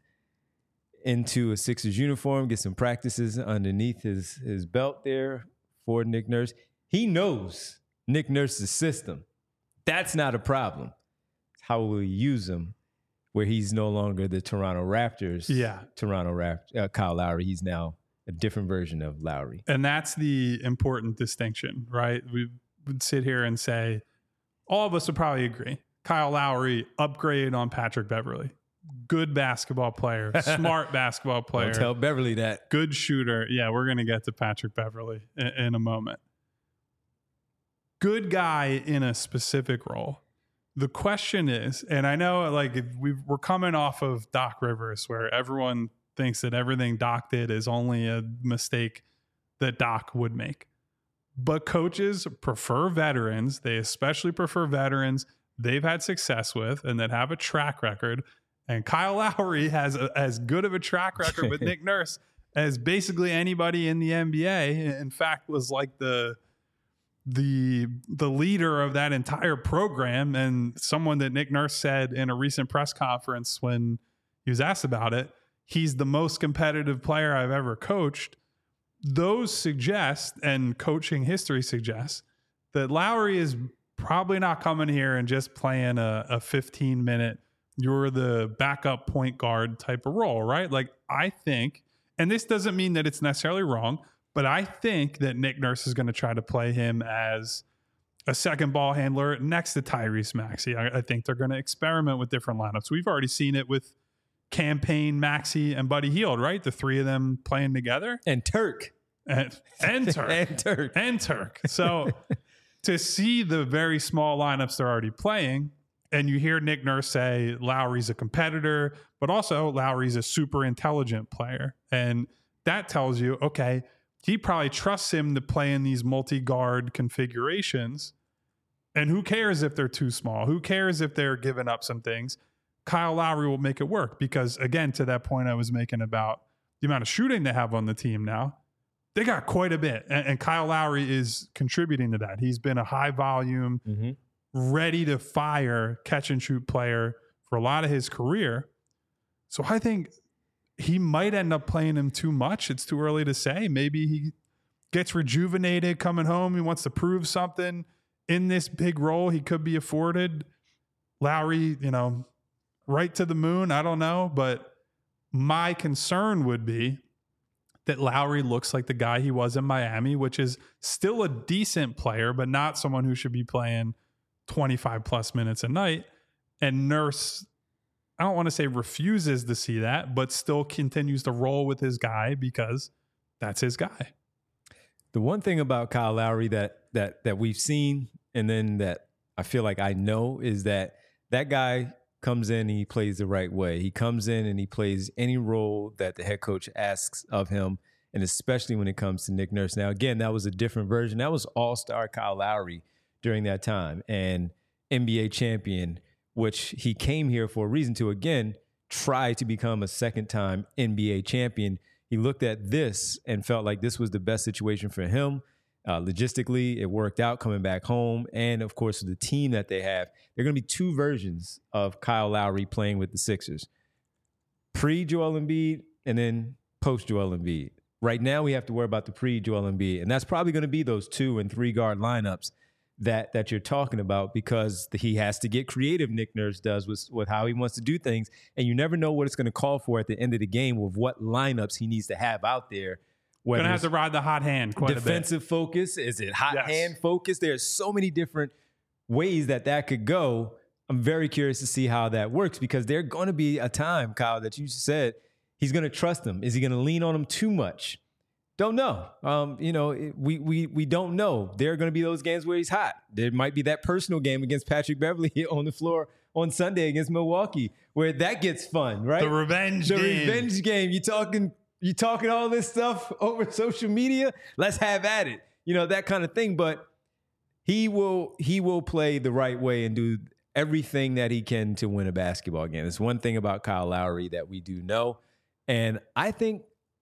into a Sixers uniform, get some practices underneath his, his belt there for Nick Nurse? He knows Nick Nurse's system. That's not a problem. How will he use him where he's no longer the Toronto Raptors? Yeah. Toronto Rapt- uh, Kyle Lowry. He's now a different version of Lowry. And that's the important distinction, right? We would sit here and say, all of us would probably agree. Kyle Lowry, upgrade on Patrick Beverly. Good basketball player, smart basketball player. Don't tell Beverly that. Good shooter. Yeah, we're going to get to Patrick Beverly in, in a moment. Good guy in a specific role. The question is, and I know like we we're coming off of Doc Rivers where everyone thinks that everything Doc did is only a mistake that Doc would make. but coaches prefer veterans. They especially prefer veterans they've had success with and that have a track record. And Kyle Lowry has a, as good of a track record with Nick Nurse as basically anybody in the N B A. In fact, was like the the the leader of that entire program, and someone that Nick Nurse said in a recent press conference when he was asked about it, he's the most competitive player I've ever coached. Those suggest, and coaching history suggests, that Lowry is probably not coming here and just playing a, a fifteen minute, you're the backup point guard type of role, right? Like, I think, and this doesn't mean that it's necessarily wrong, but I think that Nick Nurse is going to try to play him as a second ball handler next to Tyrese Maxey. I, I think they're going to experiment with different lineups. We've already seen it with Campaign, Maxey, and Buddy Hield, right? The three of them playing together. And Turk. And, and Turk. and Turk. And Turk. So to see the very small lineups they're already playing, and you hear Nick Nurse say Lowry's a competitor, but also Lowry's a super intelligent player. And that tells you, okay, he probably trusts him to play in these multi-guard configurations. And who cares if they're too small? Who cares if they're giving up some things? Kyle Lowry will make it work because, again, to that point I was making about the amount of shooting they have on the team now, they got quite a bit. And, and Kyle Lowry is contributing to that. He's been a high volume, mm-hmm. ready to fire catch and shoot player for a lot of his career. So I think he might end up playing him too much. It's too early to say. Maybe he gets rejuvenated coming home. He wants to prove something in this big role he could be afforded. Lowry, you know, right to the moon. I don't know. But my concern would be that Lowry looks like the guy he was in Miami, which is still a decent player, but not someone who should be playing twenty-five plus minutes a night. And Nurse, I don't want to say refuses to see that, but still continues to roll with his guy because that's his guy. The one thing about Kyle Lowry that that that we've seen, and then that I feel like I know, is that that guy comes in and he plays the right way. He comes in and he plays any role that the head coach asks of him, and especially when it comes to Nick Nurse. Now, again, that was a different version. That was all-star Kyle Lowry during that time and N B A champion, which he came here for a reason to, again, try to become a second-time N B A champion. He looked at this and felt like this was the best situation for him. Uh, logistically, it worked out coming back home. And, of course, the team that they have, there are going to be two versions of Kyle Lowry playing with the Sixers. Pre-Joel Embiid and then post-Joel Embiid. Right now, we have to worry about the pre-Joel Embiid. And that's probably going to be those two- and three-guard lineups that that you're talking about, because he has to get creative, Nick Nurse does, with, with how he wants to do things. And you never know what it's going to call for at the end of the game with what lineups he needs to have out there. Going to have to ride the hot hand quite a bit. Defensive focus? Is it hot Yes. hand focus? There's so many different ways that that could go. I'm very curious to see how that works, because there's going to be a time, Kyle, that you said he's going to trust him. Is he going to lean on him too much? Don't know. Um, you know, we we we don't know. There are going to be those games where he's hot. There might be that personal game against Patrick Beverley on the floor on Sunday against Milwaukee, where that gets fun, right? The revenge the game. The revenge game. You talking you talking all this stuff over social media? Let's have at it. You know, that kind of thing. But he will he will play the right way and do everything that he can to win a basketball game. It's one thing about Kyle Lowry that we do know, and I think.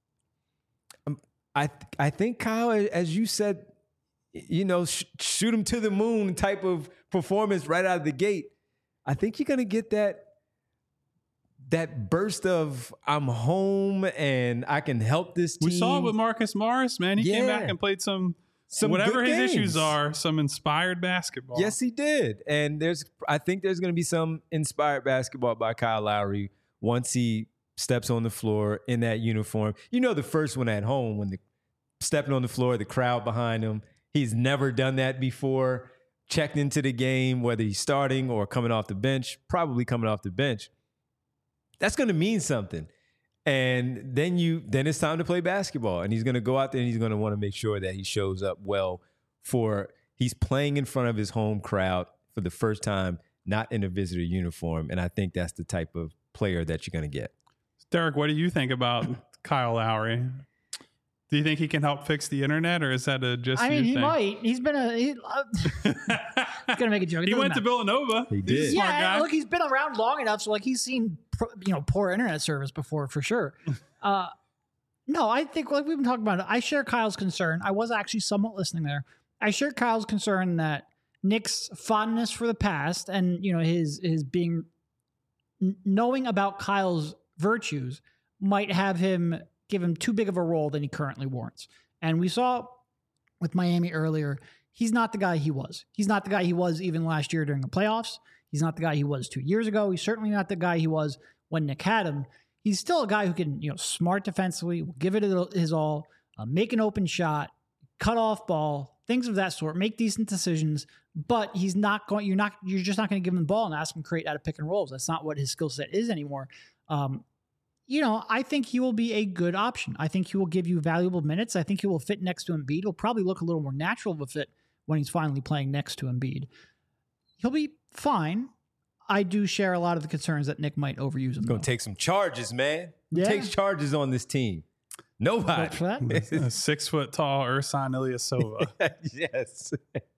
I th- I think, Kyle, as you said, you know, sh- shoot him to the moon type of performance right out of the gate. I think you're going to get that that burst of I'm home and I can help this team. We saw it with Marcus Morris, man. He yeah. came back and played some, some whatever his games. issues are, some inspired basketball. Yes, he did. And there's, I think there's going to be some inspired basketball by Kyle Lowry once he steps on the floor in that uniform. You know, the first one at home when the stepping on the floor, the crowd behind him. He's never done that before. Checked into the game, whether he's starting or coming off the bench, probably coming off the bench. That's going to mean something. And then you, then it's time to play basketball. And he's going to go out there and he's going to want to make sure that he shows up well for, he's playing in front of his home crowd for the first time, not in a visitor uniform. And I think that's the type of player that you're going to get. Derek, what do you think about Kyle Lowry? Do you think he can help fix the internet, or is that a just? I mean, you he thing? might. He's been a. He, uh, he's gonna make a joke. It He doesn't went matter. to Villanova. He He's a did. smart Yeah, guy. look, he's been around long enough, so like he's seen pro- you know poor internet service before for sure. Uh, no, I think like we've been talking about it. I share Kyle's concern. I was actually somewhat listening there. I share Kyle's concern that Nick's fondness for the past and you know his his being n- knowing about Kyle's virtues might have him give him too big of a role than he currently warrants. And we saw with Miami earlier, he's not the guy he was. He's not the guy he was even last year during the playoffs. He's not the guy he was two years ago. He's certainly not the guy he was when Nick had him. He's still a guy who can, you know, smart defensively, will give it his all, uh, make an open shot, cut off ball, things of that sort, make decent decisions. But he's not going. You're not. You're just not going to give him the ball and ask him to create out of pick and rolls. That's not what his skill set is anymore. Um, you know, I think he will be a good option. I think he will give you valuable minutes. I think he will fit next to Embiid. He'll probably look a little more natural of a fit when he's finally playing next to Embiid. He'll be fine. I do share a lot of the concerns that Nick might overuse him. Gonna take some charges, man. Who Yeah. takes charges on this team? Nobody. Vote for that. A six foot tall Ersan Ilyasova yes.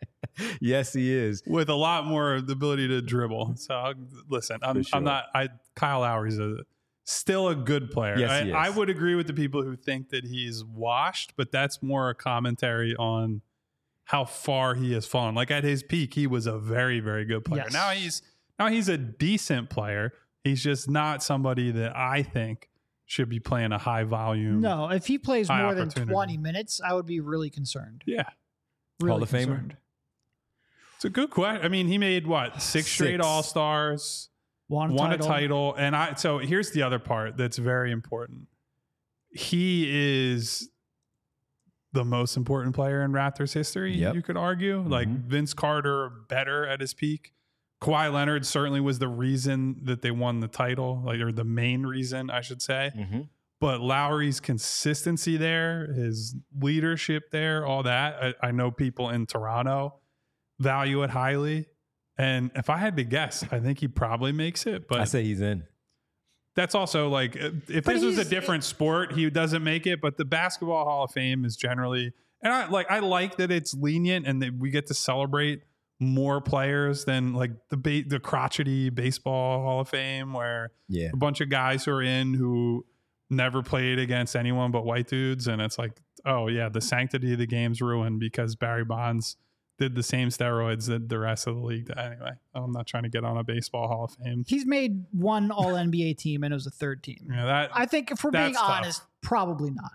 yes, he is. with a lot more the ability to dribble. So I'll, listen, I'm, For sure. I'm not. I Kyle Lowry's a still a good player. Yes, I, he is. I would agree with the people who think that he's washed, but that's more a commentary on how far he has fallen. Like at his peak, he was a very, very good player. Yes. Now he's now he's a decent player. He's just not somebody that I think should be playing a high volume. No, if he plays High more than opportunity. twenty minutes, I would be really concerned. Yeah. Really Hall of Famer? concerned. It's a good question. I mean, he made what? Six straight Six. All-Stars. Won a won title. a title, and I so here's the other part that's very important. He is the most important player in Raptors history, Yep. you could argue. Like Mhm. Vince Carter better at his peak. Kawhi Leonard certainly was the reason that they won the title, like or the main reason, I should say. Mm-hmm. But Lowry's consistency there, his leadership there, all that. I, I know people in Toronto value it highly. And if I had to guess, I think he probably makes it. But I say he's in. that's also like if if But this was a he's- different sport, he doesn't make it. But the Basketball Hall of Fame is generally, and I like I like that it's lenient and that we get to celebrate more players than like the ba- the crotchety Baseball Hall of Fame, where Yeah. a bunch of guys who are in who never played against anyone but white dudes, and it's like, oh yeah, the sanctity of the game's ruined because Barry Bonds did the same steroids that the rest of the league did. Anyway, I'm not trying to get on a Baseball Hall of Fame. He's made one All N B A team, and it was a third team. Yeah, that I think if we're being That's tough. honest, probably not.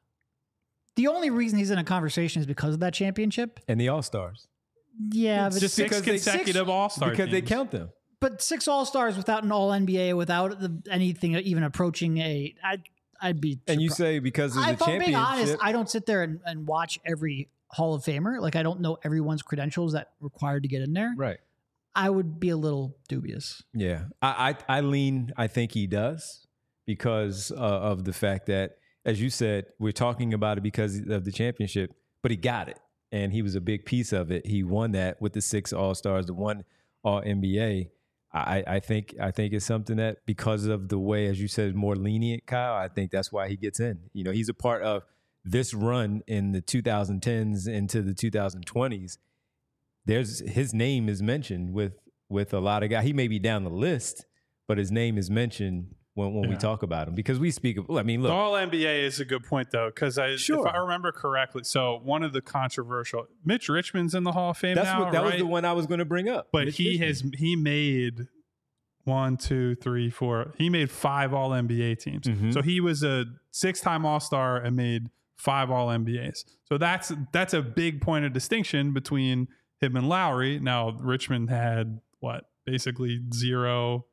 The only reason he's in a conversation is because of that championship. And the All Stars. Yeah, but just six because they- consecutive All Star Because they count them. but six All Stars without an All N B A, without the, anything even approaching a, I'd, I'd be. And you surprised. say because of the If I'm being honest, championship. I don't sit there and, and watch every Hall of Famer. Like I don't know everyone's credentials that required to get in there. Right. I would be a little dubious. Yeah, I, I I lean. I think he does because uh, of the fact that, as you said, we're talking about it because of the championship, but he got it, and he was a big piece of it. He won that with the six All Stars, the one All N B A. I, I think I think it's something that because of the way, as you said, more lenient, Kyle. I think that's why he gets in. You know, he's a part of this run in the two thousand tens into the two thousand twenties. There's his name is mentioned with with a lot of guys. He may be down the list, but his name is mentioned when, when we Yeah. talk about him because we speak of. I mean, The look, All N B A is a good point though, because I, Sure. if I remember correctly, so one of the controversial, Mitch Richmond's in the Hall of Fame that's now, what that right? was the one I was going to bring up. But Mitch he Richmond. has he made one, two, three, four. He made five All N B A teams. Mhm. So he was a six-time All Star and made five All N B As. So that's that's a big point of distinction between him and Lowry. Now Richmond had what basically zero.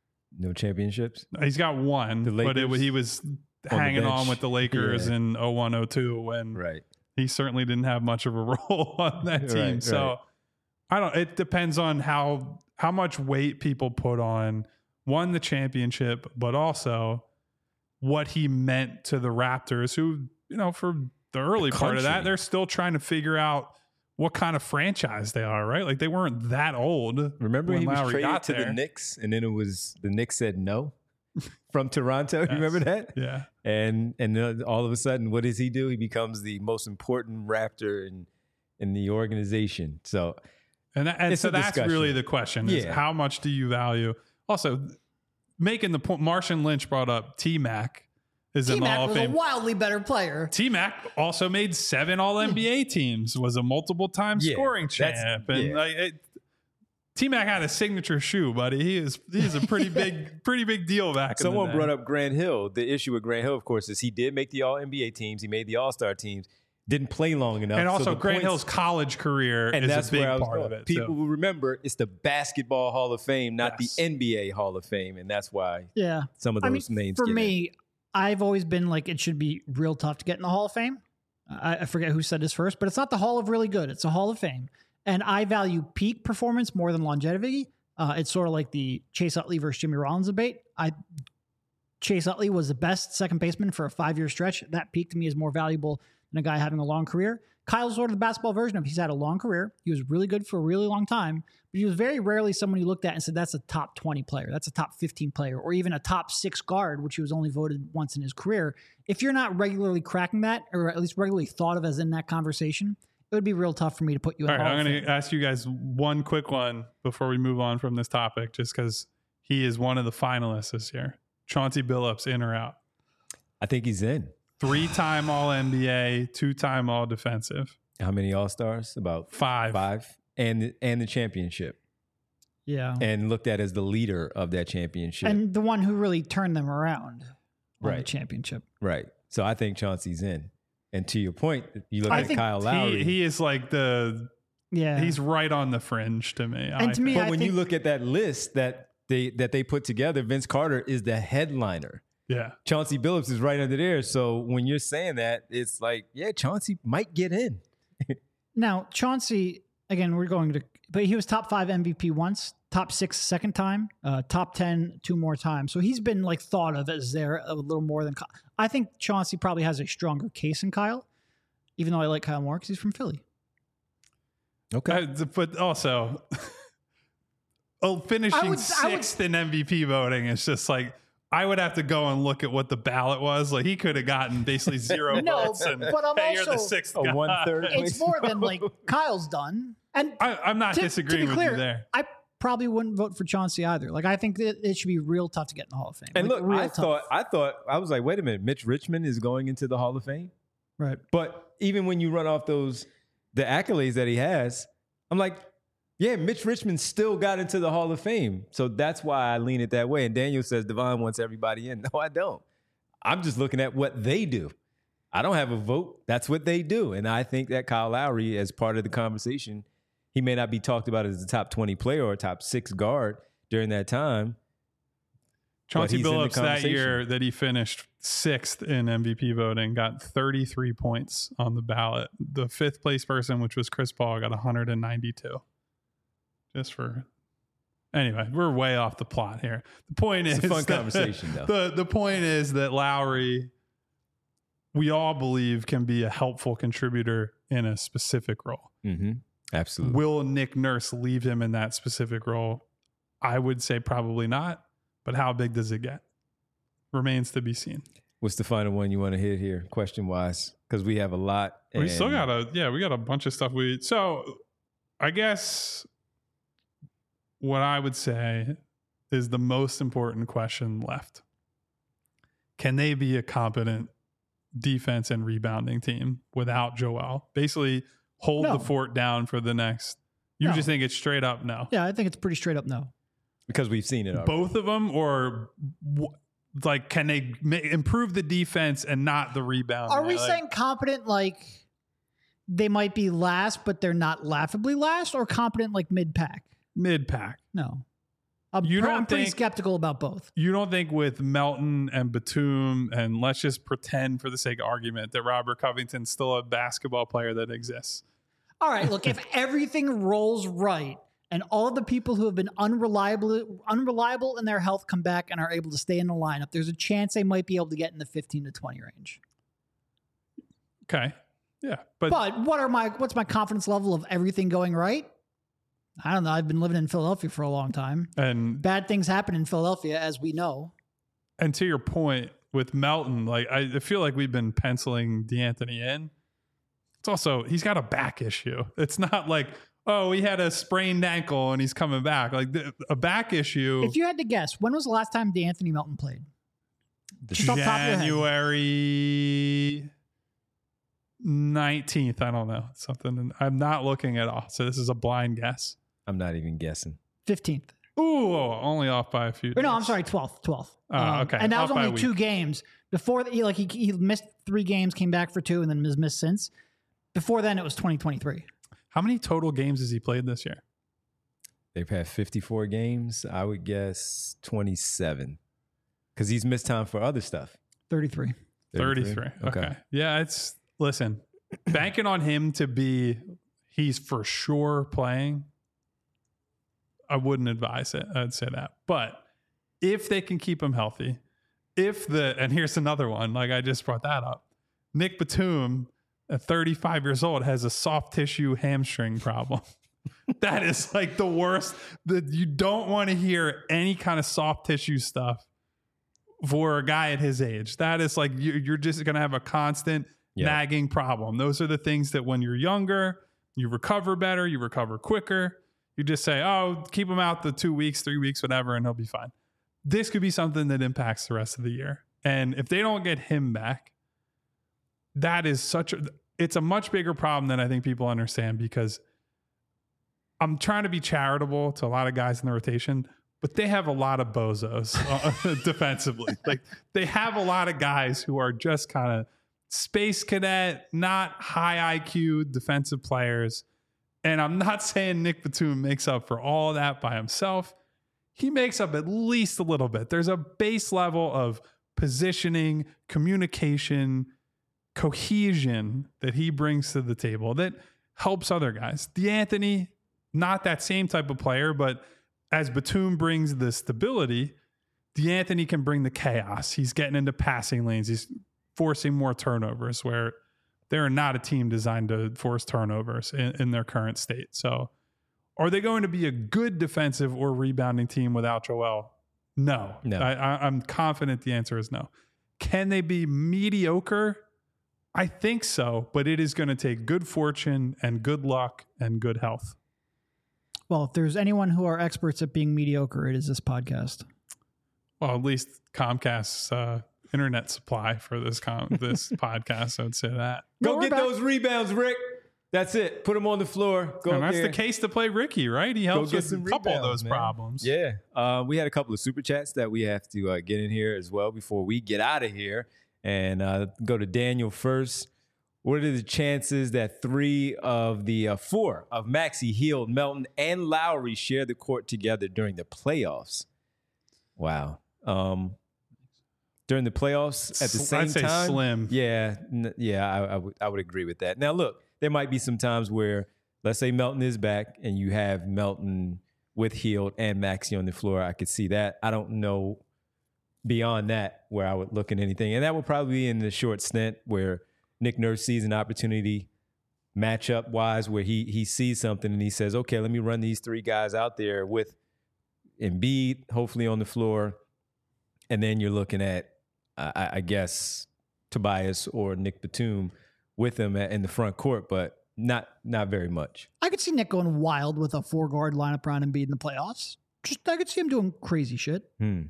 no championships. He's got one, The but it, Lakers? he was the hanging on bench. with the Lakers Yeah. in oh one oh two when Right. he certainly didn't have much of a role on that team. Right, so right. I don't, it depends on how, how much weight people put on one, the championship, but also what he meant to the Raptors who, you know, for the early part of that, country. they're still trying to figure out what kind of franchise they are, right? Like they weren't that old. Remember when he was Lowry traded got to there. the Knicks, and then it was the Knicks said no, from Toronto. Yes. You remember that? Yeah. And and uh, all of a sudden, what does he do? He becomes the most important Raptor in in the organization. So, And, that, and It's so a that's discussion. really the question is Yeah. how much do you value? Also, making the point, Martian Lynch brought up T-Mac is in the Hall T-Mac of was a Fame. wildly better player. T-Mac also made seven All N B A teams, was a multiple time Yeah, scoring that's- champ. And yeah. like it, T-Mac had a signature shoe, buddy. He is he's a pretty big, pretty big deal back in someone the day. brought up Grant Hill. The issue with Grant Hill, of course, is he did make the All N B A teams. He made the All Star teams. Didn't play long enough. And so also, the Grant points- Hill's college career and is that's a big where I was part going. of it. People so. will remember it's the Basketball Hall of Fame, not Yes. the N B A Hall of Fame, and that's why Yeah. some of I those mean, names. for get in. me, I've always been like, it should be real tough to get in the Hall of Fame. I, I forget who said this first, but it's not the Hall of Really Good. It's a Hall of Fame. And I value peak performance more than longevity. Uh, it's sort of like the Chase Utley versus Jimmy Rollins debate. I Chase Utley was the best second baseman for a five-year stretch. That peak to me is more valuable than a guy having a long career. Kyle's sort of the basketball version of he's had a long career. He was really good for a really long time, but he was very rarely someone you looked at and said, that's a top twenty player. That's a top fifteen player, or even a top six guard, which he was only voted once in his career. If you're not regularly cracking that, or at least regularly thought of as in that conversation, it would be real tough for me to put you in All the right, Hall I'm of going Fame. to ask you guys one quick one before we move on from this topic, just because he is one of the finalists this year. Chauncey Billups, in or out? I think he's in. Three-time All N B A, two-time All Defensive. How many All Stars? About Five. five, and and the championship, Yeah. and looked at as the leader of that championship. And the one who really turned them around on the Right. championship. Right. So I think Chauncey's in. And to your point, you look I at think Kyle Lowry. He, he is like the, Yeah. he's right on the fringe to me. And I to me, think. but I when think- you look at that list that they that they put together, Vince Carter is the headliner. yeah. Chauncey Billups is right under there. So when you're saying that, it's like, yeah, Chauncey might get in. Now, Chauncey, again, we're going to, but he was top five M V P once, top six second time, uh, top ten two more times. So he's been like thought of as there a little more than Kyle. I think Chauncey probably has a stronger case than Kyle, even though I like Kyle more because he's from Philly. Okay. Uh, but also, oh, finishing I would- I would- sixth in M V P voting is just like, I would have to go and look at what the ballot was. Like he could have gotten basically zero No, votes. And but I'm hey, you're the also- sixth A guy. one-third. It's more than like Kyle's done. And I, I'm not to, disagreeing to be with clear, you there. I probably wouldn't vote for Chauncey either. Like I think that it should be real tough to get in the Hall of Fame. And Like, look, real I tough. thought I thought I was like, wait a minute, Mitch Richmond is going into the Hall of Fame. right. But even when you run off those the accolades that he has, I'm like, yeah, Mitch Richmond still got into the Hall of Fame. So that's why I lean it that way. And Daniel says Devon wants everybody in. No, I don't. I'm just looking at what they do. I don't have a vote. That's what they do. And I think that Kyle Lowry, as part of the conversation, he may not be talked about as a top twenty player or a top six guard during that time. Chauncey he's in the Billups that conversation. year that he finished sixth in M V P voting got thirty-three points on the ballot. The fifth place person, which was Chris Paul, got one hundred ninety-two. Just for anyway, we're way off the plot here. The point It's is a fun that- conversation, though. The the point is that Lowry, we all believe, can be a helpful contributor in a specific role. Mm-hmm. Absolutely. Will Nick Nurse leave him in that specific role? I would say probably not. But how big does it get? Remains to be seen. What's the final one you want to hit here, question wise? Because we have a lot. We still and- got a yeah, we got a bunch of stuff. We so I guess what I would say is the most important question left. Can they be a competent defense and rebounding team without Joel? Basically, hold No. the fort down for the next. You No. just think it's straight up no. Yeah, I think it's pretty straight up no. because we've seen it already. Both of them, or w- like, can they ma- improve the defense and not the rebound? Are we Like, saying competent like they might be last, but they're not laughably last, or competent like mid pack? mid pack? No. I'm, You pr- don't I'm pretty think- skeptical about both. You don't think with Melton and Batum, and let's just pretend for the sake of argument that Robert Covington's still a basketball player that exists? All right, look, if everything rolls right and all of the people who have been unreliable unreliable in their health come back and are able to stay in the lineup, there's a chance they might be able to get in the fifteen to twenty range. Okay, yeah, but, But what are my what's my confidence level of everything going right? I don't know. I've been living in Philadelphia for a long time. and Bad things happen in Philadelphia, as we know. And to your point with Melton, like I feel like we've been penciling DeAnthony in. It's also, he's got a back issue. It's not like, oh, he had a sprained ankle and he's coming back. Like the, a back issue. If you had to guess, when was the last time DeAnthony Melton played? Just off the top of your head. January nineteenth. I don't know. Something. I'm not looking at all. So this is a blind guess. I'm not even guessing. fifteenth. Ooh, only off by a few Or no, days. I'm sorry, twelfth. twelfth. Oh, Um, okay. And that was Off by a only two week. games. Before that, he, like he, he missed three games, came back for two, and then has missed since. Before then, it was twenty twenty-three. How many total games has he played this year? They've had fifty-four games. I would guess twenty-seven because he's missed time for other stuff. thirty-three. thirty-three. Okay. okay. Yeah, it's, listen, banking on him to be, he's for sure playing, I wouldn't advise it. I'd say that. But if they can keep him healthy, if the, and here's another one, like I just brought that up, Nick Batum, at thirty-five years old, has a soft tissue hamstring problem. That is like the worst. That you don't want to hear any kind of soft tissue stuff for a guy at his age. That is like you, you're just going to have a constant Yeah. nagging problem. Those are the things that when you're younger, you recover better, you recover quicker. You just say, oh, keep him out the two weeks, three weeks, whatever, and he'll be fine. This could be something that impacts the rest of the year. And if they don't get him back, that is such a, it's a much bigger problem than I think people understand, because I'm trying to be charitable to a lot of guys in the rotation, but they have a lot of bozos uh, defensively. Like they have a lot of guys who are just kind of space cadet, not high I Q defensive players. And I'm not saying Nick Batum makes up for all that by himself. He makes up at least a little bit. There's a base level of positioning, communication, cohesion that he brings to the table that helps other guys. DeAnthony, not that same type of player, but as Batum brings the stability, DeAnthony can bring the chaos. He's getting into passing lanes. He's forcing more turnovers where they're not a team designed to force turnovers in, in their current state. So are they going to be a good defensive or rebounding team without Joel? No. No. I, I, I'm confident the answer is no. Can they be mediocre? I think so, but it is going to take good fortune and good luck and good health. Well, if there's anyone who are experts at being mediocre, it is this podcast. Well, at least Comcast's uh, internet supply for this com- this podcast, I would say that. Go No, get we're back. those rebounds, Rick. That's it. Put them on the floor. Go And up that's there. the case to play Ricky, right? He Go helps get with a some couple of rebounds, those man. problems. Yeah. Uh, we had a couple of super chats that we have to uh, get in here as well before we get out of here. And uh, go to Daniel first. What are the chances that three of the uh, four of Maxey, Hield, Melton, and Lowry share the court together during the playoffs? Wow. Um, during the playoffs at the Sl- same I'd say time? slim. Yeah. N- yeah, I, I, would, I would agree with that. Now, look, there might be some times where, let's say Melton is back and you have Melton with Hield and Maxey on the floor. I could see that. I don't know beyond that where I would look at anything. And that will probably be in the short stint where Nick Nurse sees an opportunity matchup wise where he he sees something and he says, okay, let me run these three guys out there with Embiid, hopefully on the floor. And then you're looking at, I, I guess, Tobias or Nick Batum with him at, in the front court, but not not very much. I could see Nick going wild with a four guard lineup around Embiid in the playoffs. Just I could see him doing crazy shit. Hmm.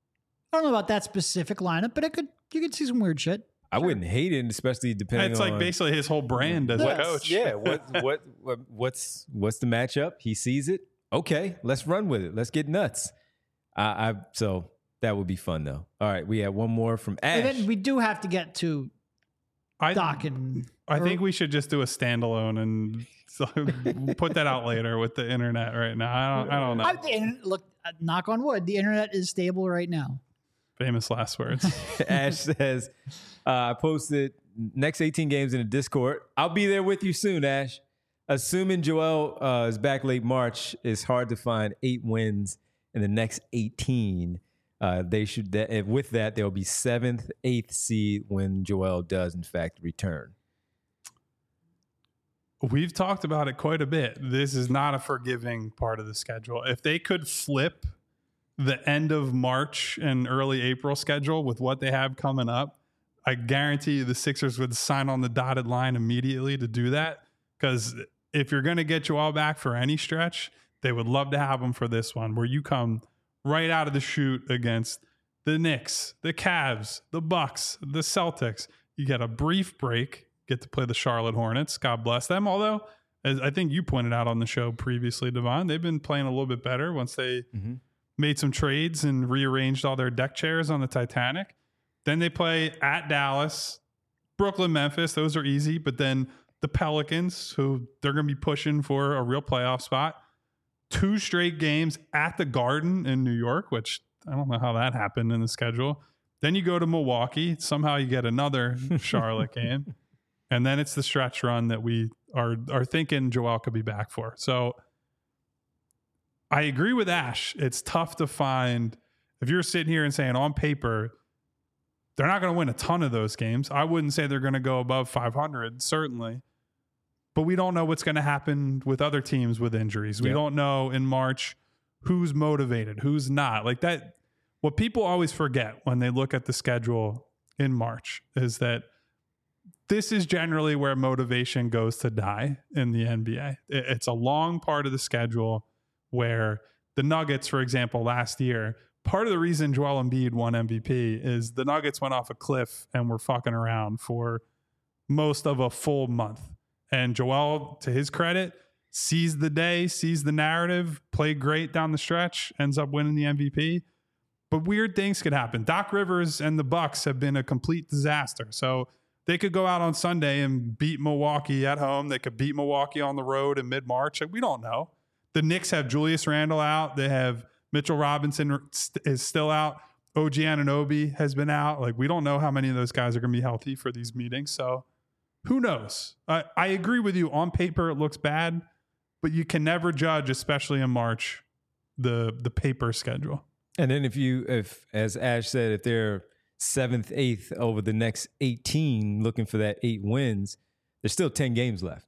I don't know about that specific lineup, but it could you could see some weird shit. I wouldn't hate it, especially depending It's on like basically his whole brand as a Yes. coach. Yeah, what, what what what's what's the matchup? He sees it. Okay, let's run with it. Let's get nuts. I, I so that would be fun though. All right, we have one more from And Ash. then we do have to get to I, Doc and I or- think we should just do a standalone and so put that out later with the internet right now. I don't, I don't know. I, the internet- look, uh, knock on wood, the internet is stable right now. Famous last words. Ash says, uh, I posted next eighteen games in the Discord. I'll be there with you soon, Ash. Assuming Joel uh, is back late March, it's hard to find eight wins in the next eighteen. Uh, they should. That, with that, they'll be seventh, eighth seed when Joel does in fact return. We've talked about it quite a bit. This is not a forgiving part of the schedule. If they could flip the end of March and early April schedule with what they have coming up, I guarantee you the Sixers would sign on the dotted line immediately to do that. Because if you're going to get Joel back for any stretch, they would love to have him for this one, where you come right out of the chute against the Knicks, the Cavs, the Bucks, the Celtics. You get a brief break, get to play the Charlotte Hornets. God bless them. Although, as I think you pointed out on the show previously, Devon, they've been playing a little bit better once they mm-hmm. made some trades and rearranged all their deck chairs on the Titanic. Then they play at Dallas, Brooklyn, Memphis. Those are easy. But then the Pelicans, who they're going to be pushing for a real playoff spot. Two straight games at the Garden in New York, which I don't know how that happened in the schedule. Then you go to Milwaukee. Somehow you get another Charlotte game. And then it's the stretch run that we are, are thinking Joel could be back for. So I agree with Ash. It's tough to find. If you're sitting here and saying on paper, they're not going to win a ton of those games. I wouldn't say they're going to go above five hundred, certainly. But we don't know what's going to happen with other teams with injuries. We yep. don't know in March who's motivated, who's not. Like that, what people always forget when they look at the schedule in March is that this is generally where motivation goes to die in the N B A. It's a long part of the schedule where the Nuggets, for example, last year, part of the reason Joel Embiid won M V P is the Nuggets went off a cliff and were fucking around for most of a full month. And Joel, to his credit, sees the day, sees the narrative, played great down the stretch, ends up winning the M V P. But weird things could happen. Doc Rivers and the Bucks have been a complete disaster. So they could go out on Sunday and beat Milwaukee at home. They could beat Milwaukee on the road in mid-March. We don't know. The Knicks have Julius Randle out. They have Mitchell Robinson is still out. O G Anunoby has been out. Like, we don't know how many of those guys are going to be healthy for these meetings. So who knows? I, I agree with you. On paper, it looks bad, but you can never judge, especially in March, the the paper schedule. And then if you, if as Ash said, if they're seventh, eighth over the next eighteen, looking for that eight wins, there's still ten games left.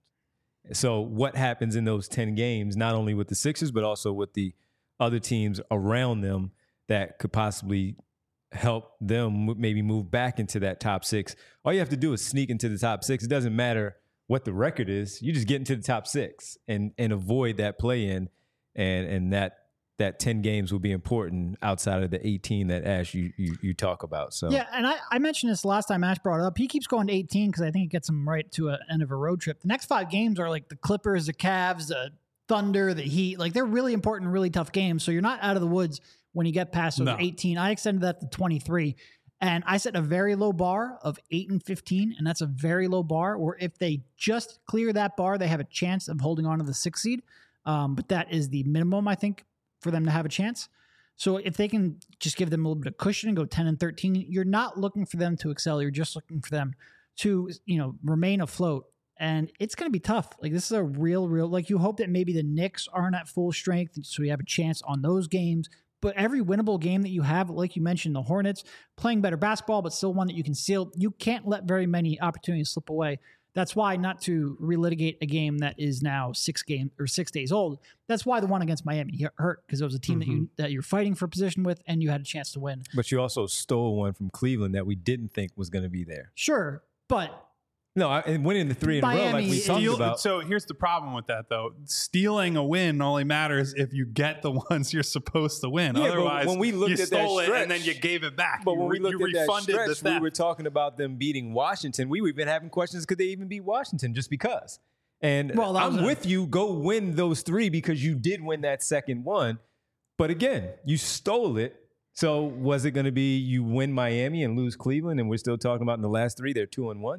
So what happens in those ten games, not only with the Sixers, but also with the other teams around them that could possibly help them maybe move back into that top six. All you have to do is sneak into the top six. It doesn't matter what the record is. You just get into the top six and and avoid that play in, and and that that ten games will be important outside of the eighteen that Ash you you, you talk about. So yeah, and I, I mentioned this last time Ash brought it up. He keeps going to eighteen because I think it gets him right to an end of a road trip. The next five games are like the Clippers, the Cavs, the Thunder, the Heat. Like, they're really important, really tough games. So you're not out of the woods when you get past those no. eighteen. I extended that to twenty-three. And I set a very low bar of eight and fifteen, and that's a very low bar, where if they just clear that bar, they have a chance of holding on to the sixth seed. Um, but that is the minimum, I think, for them to have a chance. So if they can just give them a little bit of cushion and go ten and thirteen, you're not looking for them to excel. You're just looking for them to, you know, remain afloat. And it's going to be tough. Like, this is a real, real, like, you hope that maybe the Knicks aren't at full strength, so you have a chance on those games. But every winnable game that you have, like you mentioned, the Hornets playing better basketball, but still one that you can seal. You can't let very many opportunities slip away. That's why, not to relitigate a game that is now six game or six days old, that's why the one against Miami hurt, because it was a team mm-hmm. that you that you're fighting for position with, and you had a chance to win. But you also stole one from Cleveland that we didn't think was going to be there. Sure, but no, and winning the three in Miami, a row, like we talked steal, about. So here's the problem with that, though. Stealing a win only matters if you get the ones you're supposed to win. Yeah, Otherwise, when we looked you at stole that it stretch, and then you gave it back. But you, when we looked you at that refunded stretch, the theft. we were talking about them beating Washington. We we've been having questions, could they even beat Washington just because? And well, I'm a- with you. Go win those three because you did win that second one. But again, you stole it. So was it going to be you win Miami and lose Cleveland, and we're still talking about in the last three, they're two and one?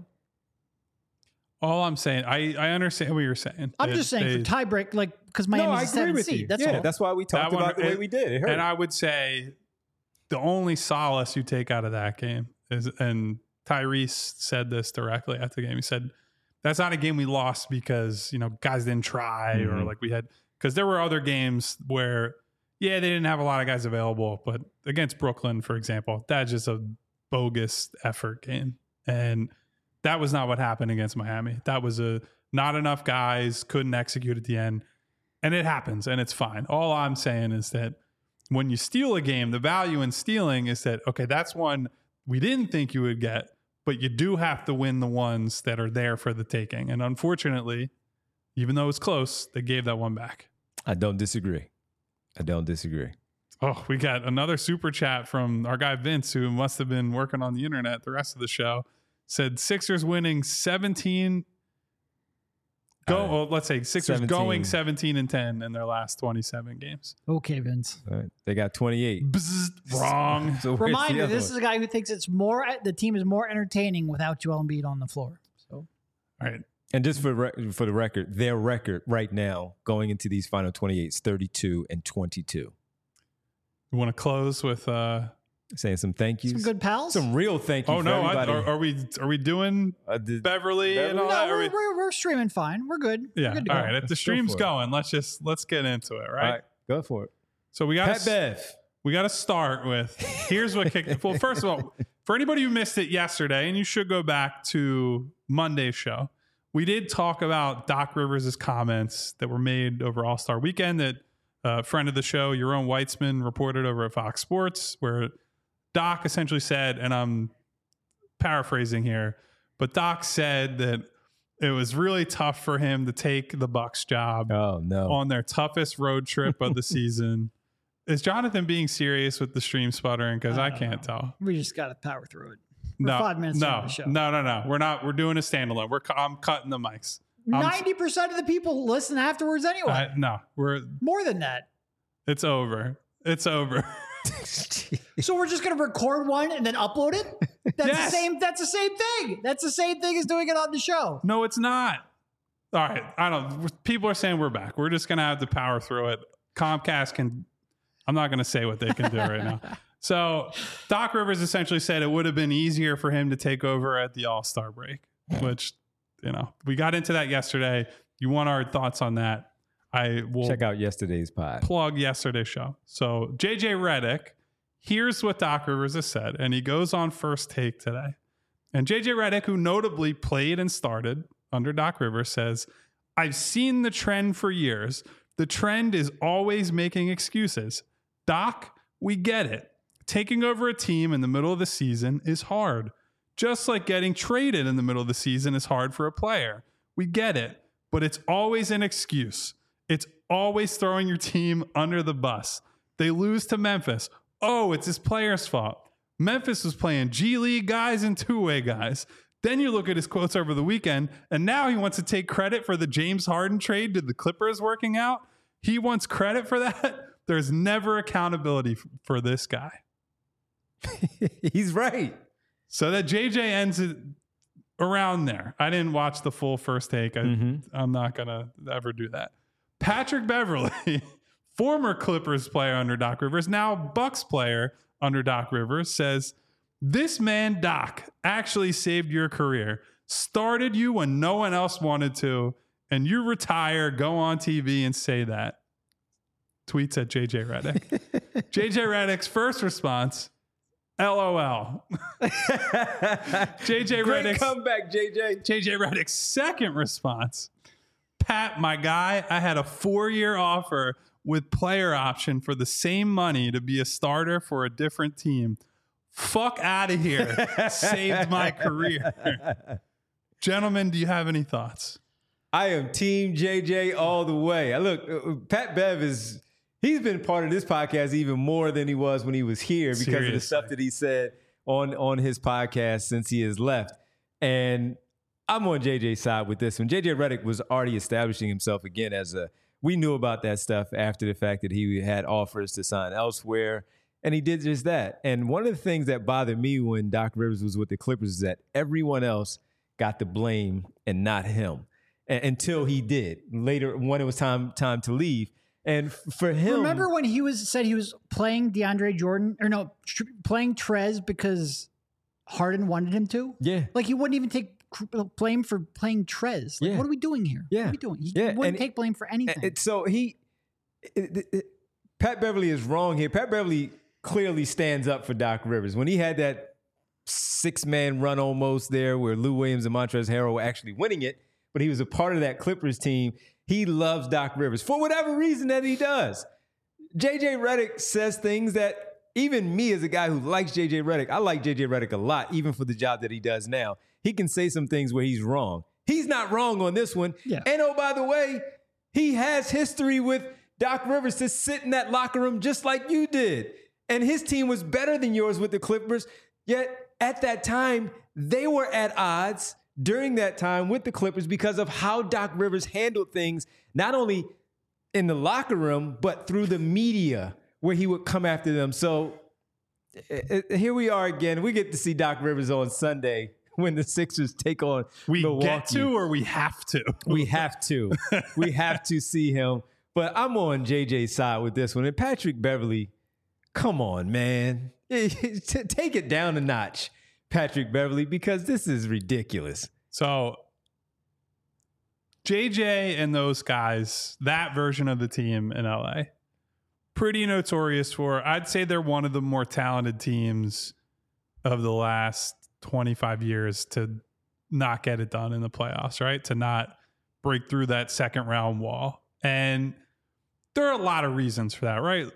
All I'm saying, I, I understand what you're saying. I'm it, just saying they, for tiebreak, like, because Miami's no, I a seven agree with seed. You. That's yeah, all. That's why we talked one, about the and, way we did. It hurt. And I would say the only solace you take out of that game is, and Tyrese said this directly after the game. He said, that's not a game we lost because, you know, guys didn't try mm-hmm. or like we had, because there were other games where, yeah, they didn't have a lot of guys available, but against Brooklyn, for example, that's just a bogus effort game. And that was not what happened against Miami. That was a not enough guys, couldn't execute at the end. And it happens, and it's fine. All I'm saying is that when you steal a game, the value in stealing is that, okay, that's one we didn't think you would get, but you do have to win the ones that are there for the taking. And unfortunately, even though it's close, they gave that one back. I don't disagree. I don't disagree. Oh, we got another super chat from our guy Vince, who must have been working on the internet the rest of the show. Said Sixers winning seventeen. Go, Uh, well, let's say Sixers seventeen. going seventeen and ten in their last twenty-seven games. Okay, Vince. All right. They got twenty-eight. Bzzzt, wrong. So where's the Reminder: other this one? is a guy who thinks it's more. The team is more entertaining without Joel Embiid on the floor. So, All right. And just for re- for the record, their record right now going into these final twenty-eight is thirty-two and twenty-two. You want to close with? uh Saying some thank yous. some good pals. Some real thank you Oh for no! I, everybody. are, are we are we doing Uh, the- Beverly, and all no, that? Are we're, we- we're, we're streaming fine. We're good. yeah. We're good to All go. right. If the Let's go stream's for it. going, let's just let's get into it. Right. All right, go for it. So we got Pat Bev. we got to start with here's what kicked. Well, first of all, for anybody who missed it yesterday, and you should go back to Monday's show, we did talk about Doc Rivers' comments that were made over All-Star Weekend that a friend of the show, Yaron Weitzman, reported over at Fox Sports, where Doc essentially said, and I'm paraphrasing here, but Doc said that it was really tough for him to take the Bucks job Oh no. on their toughest road trip of the season. Is Jonathan being serious with the stream sputtering? Because I, I can't don't tell. We just got to power through it. We're No, five minutes no, into the show. no, no, no. We're not. We're doing a standalone. We're. cu- I'm cutting the mics. I'm- Ninety percent of the people listen afterwards anyway. I, no, we're. More than that. It's over. It's over. So we're just gonna record one and then upload it. That's Yes. the same. That's the same thing. That's the same thing as doing it on the show. No, it's not. All right. I don't. People are saying we're back. We're just gonna have to power through it. Comcast can. I'm not gonna say what they can do right now. So Doc Rivers essentially said it would have been easier for him to take over at the All-Star break, which, you know, we got into that yesterday. You want our thoughts on that? I will Check out yesterday's pod. plug yesterday's show. So J J Redick, here's what Doc Rivers has said, and he goes on First Take today. And J J Redick, who notably played and started under Doc Rivers, says, "I've seen the trend for years. The trend is always making excuses. Doc, we get it. Taking over a team in the middle of the season is hard. Just like getting traded in the middle of the season is hard for a player. We get it, but it's always an excuse. It's always throwing your team under the bus. They lose to Memphis. Oh, it's his player's fault. Memphis was playing G League guys and two-way guys. Then you look at his quotes over the weekend, and now he wants to take credit for the James Harden trade to the Clippers working out. He wants credit for that. There's never accountability f- for this guy." He's right. So that J J ends it around there. I didn't watch the full First Take. I, Mhm. I'm not going to ever do that. Patrick Beverly, former Clippers player under Doc Rivers, now Bucks player under Doc Rivers, says, "This man, Doc, actually saved your career. Started you when no one else wanted to, and you retire, go on T V and say that." Tweets at J J Redick. J J Redick's first response, L O L. J J Great Redick's comeback, J J. J J Redick's second response, "Pat, my guy, I had a four-year offer with player option for the same money to be a starter for a different team. Fuck out of here. Saved my career." Gentlemen, do you have any thoughts? I am Team J J all the way. I look, uh, Pat Bev is, he's been part of this podcast even more than he was when he was here because of the Seriously. stuff that he said on, on his podcast since he has left. And I'm on J J's side with this one. J J Redick was already establishing himself again as a, we knew about that stuff after the fact that he had offers to sign elsewhere. And he did just that. And one of the things that bothered me when Doc Rivers was with the Clippers is that everyone else got the blame and not him a- until he did later when it was time time to leave. And f- for him, Remember when he was said he was playing DeAndre Jordan or no tr- playing Trez because Harden wanted him to? yeah, Like he wouldn't even take cr- blame for playing Trez. Like, Yeah. what are we doing here? Yeah. What are we doing? He Yeah, wouldn't and- take blame for anything. And so he, it- it- it- Pat Beverly is wrong here. Pat Beverly clearly stands up for Doc Rivers. When he had that six-man run almost there where Lou Williams and Montrezl Harrell were actually winning it, but he was a part of that Clippers team, he loves Doc Rivers for whatever reason that he does. J J Redick says things that even me as a guy who likes J J Redick, I like J J Redick a lot, even for the job that he does now. He can say some things where he's wrong. He's not wrong on this one. Yeah. And oh, by the way, he has history with Doc Rivers to sit in that locker room just like you did. And his team was better than yours with the Clippers. Yet at that time, they were at odds during that time with the Clippers because of how Doc Rivers handled things, not only in the locker room, but through the media where he would come after them. So uh, here we are again. We get to see Doc Rivers on Sunday when the Sixers take on we Milwaukee. Get to or we have to? We have to. We have to see him. But I'm on J J's side with this one. And Patrick Beverley, come on, man. Take it down a notch, Patrick Beverley, because this is ridiculous. So J J and those guys, that version of the team in L A, pretty notorious for, I'd say they're one of the more talented teams of the last twenty-five years to not get it done in the playoffs, right? To not break through that second round wall. And there are a lot of reasons for that, right?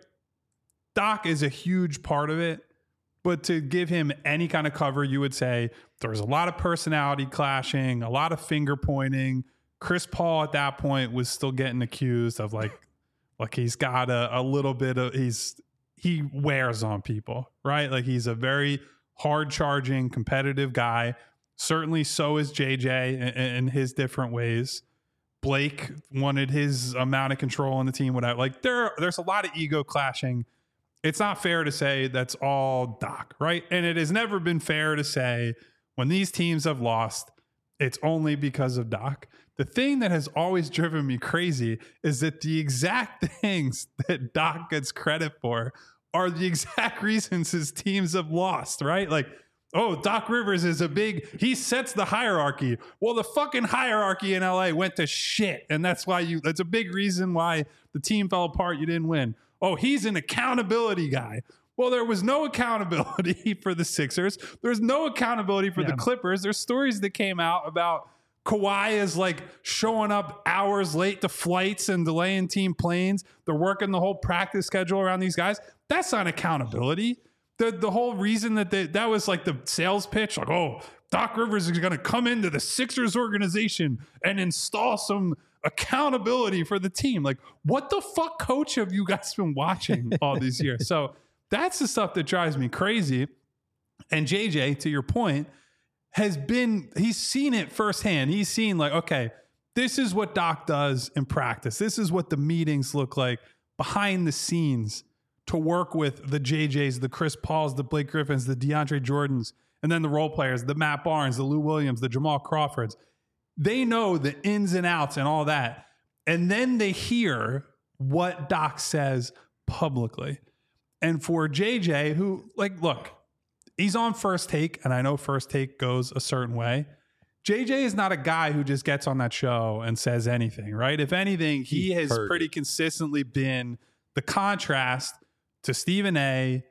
Doc is a huge part of it, but to give him any kind of cover, you would say there was a lot of personality clashing, a lot of finger pointing. Chris Paul at that point was still getting accused of like, like he's got a, a little bit of, he's, he wears on people, right? Like he's a very hard charging, competitive guy. Certainly so is J J in, in his different ways. Blake wanted his amount of control on the team. Whatever. Like there, there's a lot of ego clashing. It's not fair to say that's all Doc, right? And it has never been fair to say when these teams have lost, it's only because of Doc. The thing that has always driven me crazy is that the exact things that Doc gets credit for are the exact reasons his teams have lost, right? Like, oh, Doc Rivers is a big, he sets the hierarchy. Well, the fucking hierarchy in L A went to shit. And that's why you, that's a big reason why the team fell apart. You didn't win. Oh, he's an accountability guy. Well, there was no accountability for the Sixers. There's no accountability for yeah. the Clippers. There's stories that came out about Kawhi is like showing up hours late to flights and delaying team planes. They're working the whole practice schedule around these guys. That's not accountability. The the whole reason that they, that was like the sales pitch, like, oh, Doc Rivers is going to come into the Sixers organization and install some accountability for the team. Like, what the fuck coach have you guys been watching all these years? So that's the stuff that drives me crazy. And J J, to your point, has been, he's seen it firsthand. He's seen like, okay, this is what Doc does in practice. This is what the meetings look like behind the scenes to work with the J Js, the Chris Pauls, the Blake Griffins, the DeAndre Jordans, and then the role players, the Matt Barnes, the Lou Williams, the Jamal Crawfords. They know the ins and outs and all that. And then they hear what Doc says publicly. And for J J, who, like, look, he's on First Take, and I know First Take goes a certain way. J J is not a guy who just gets on that show and says anything, right? If anything, he, he has pretty it. consistently been the contrast to Stephen A,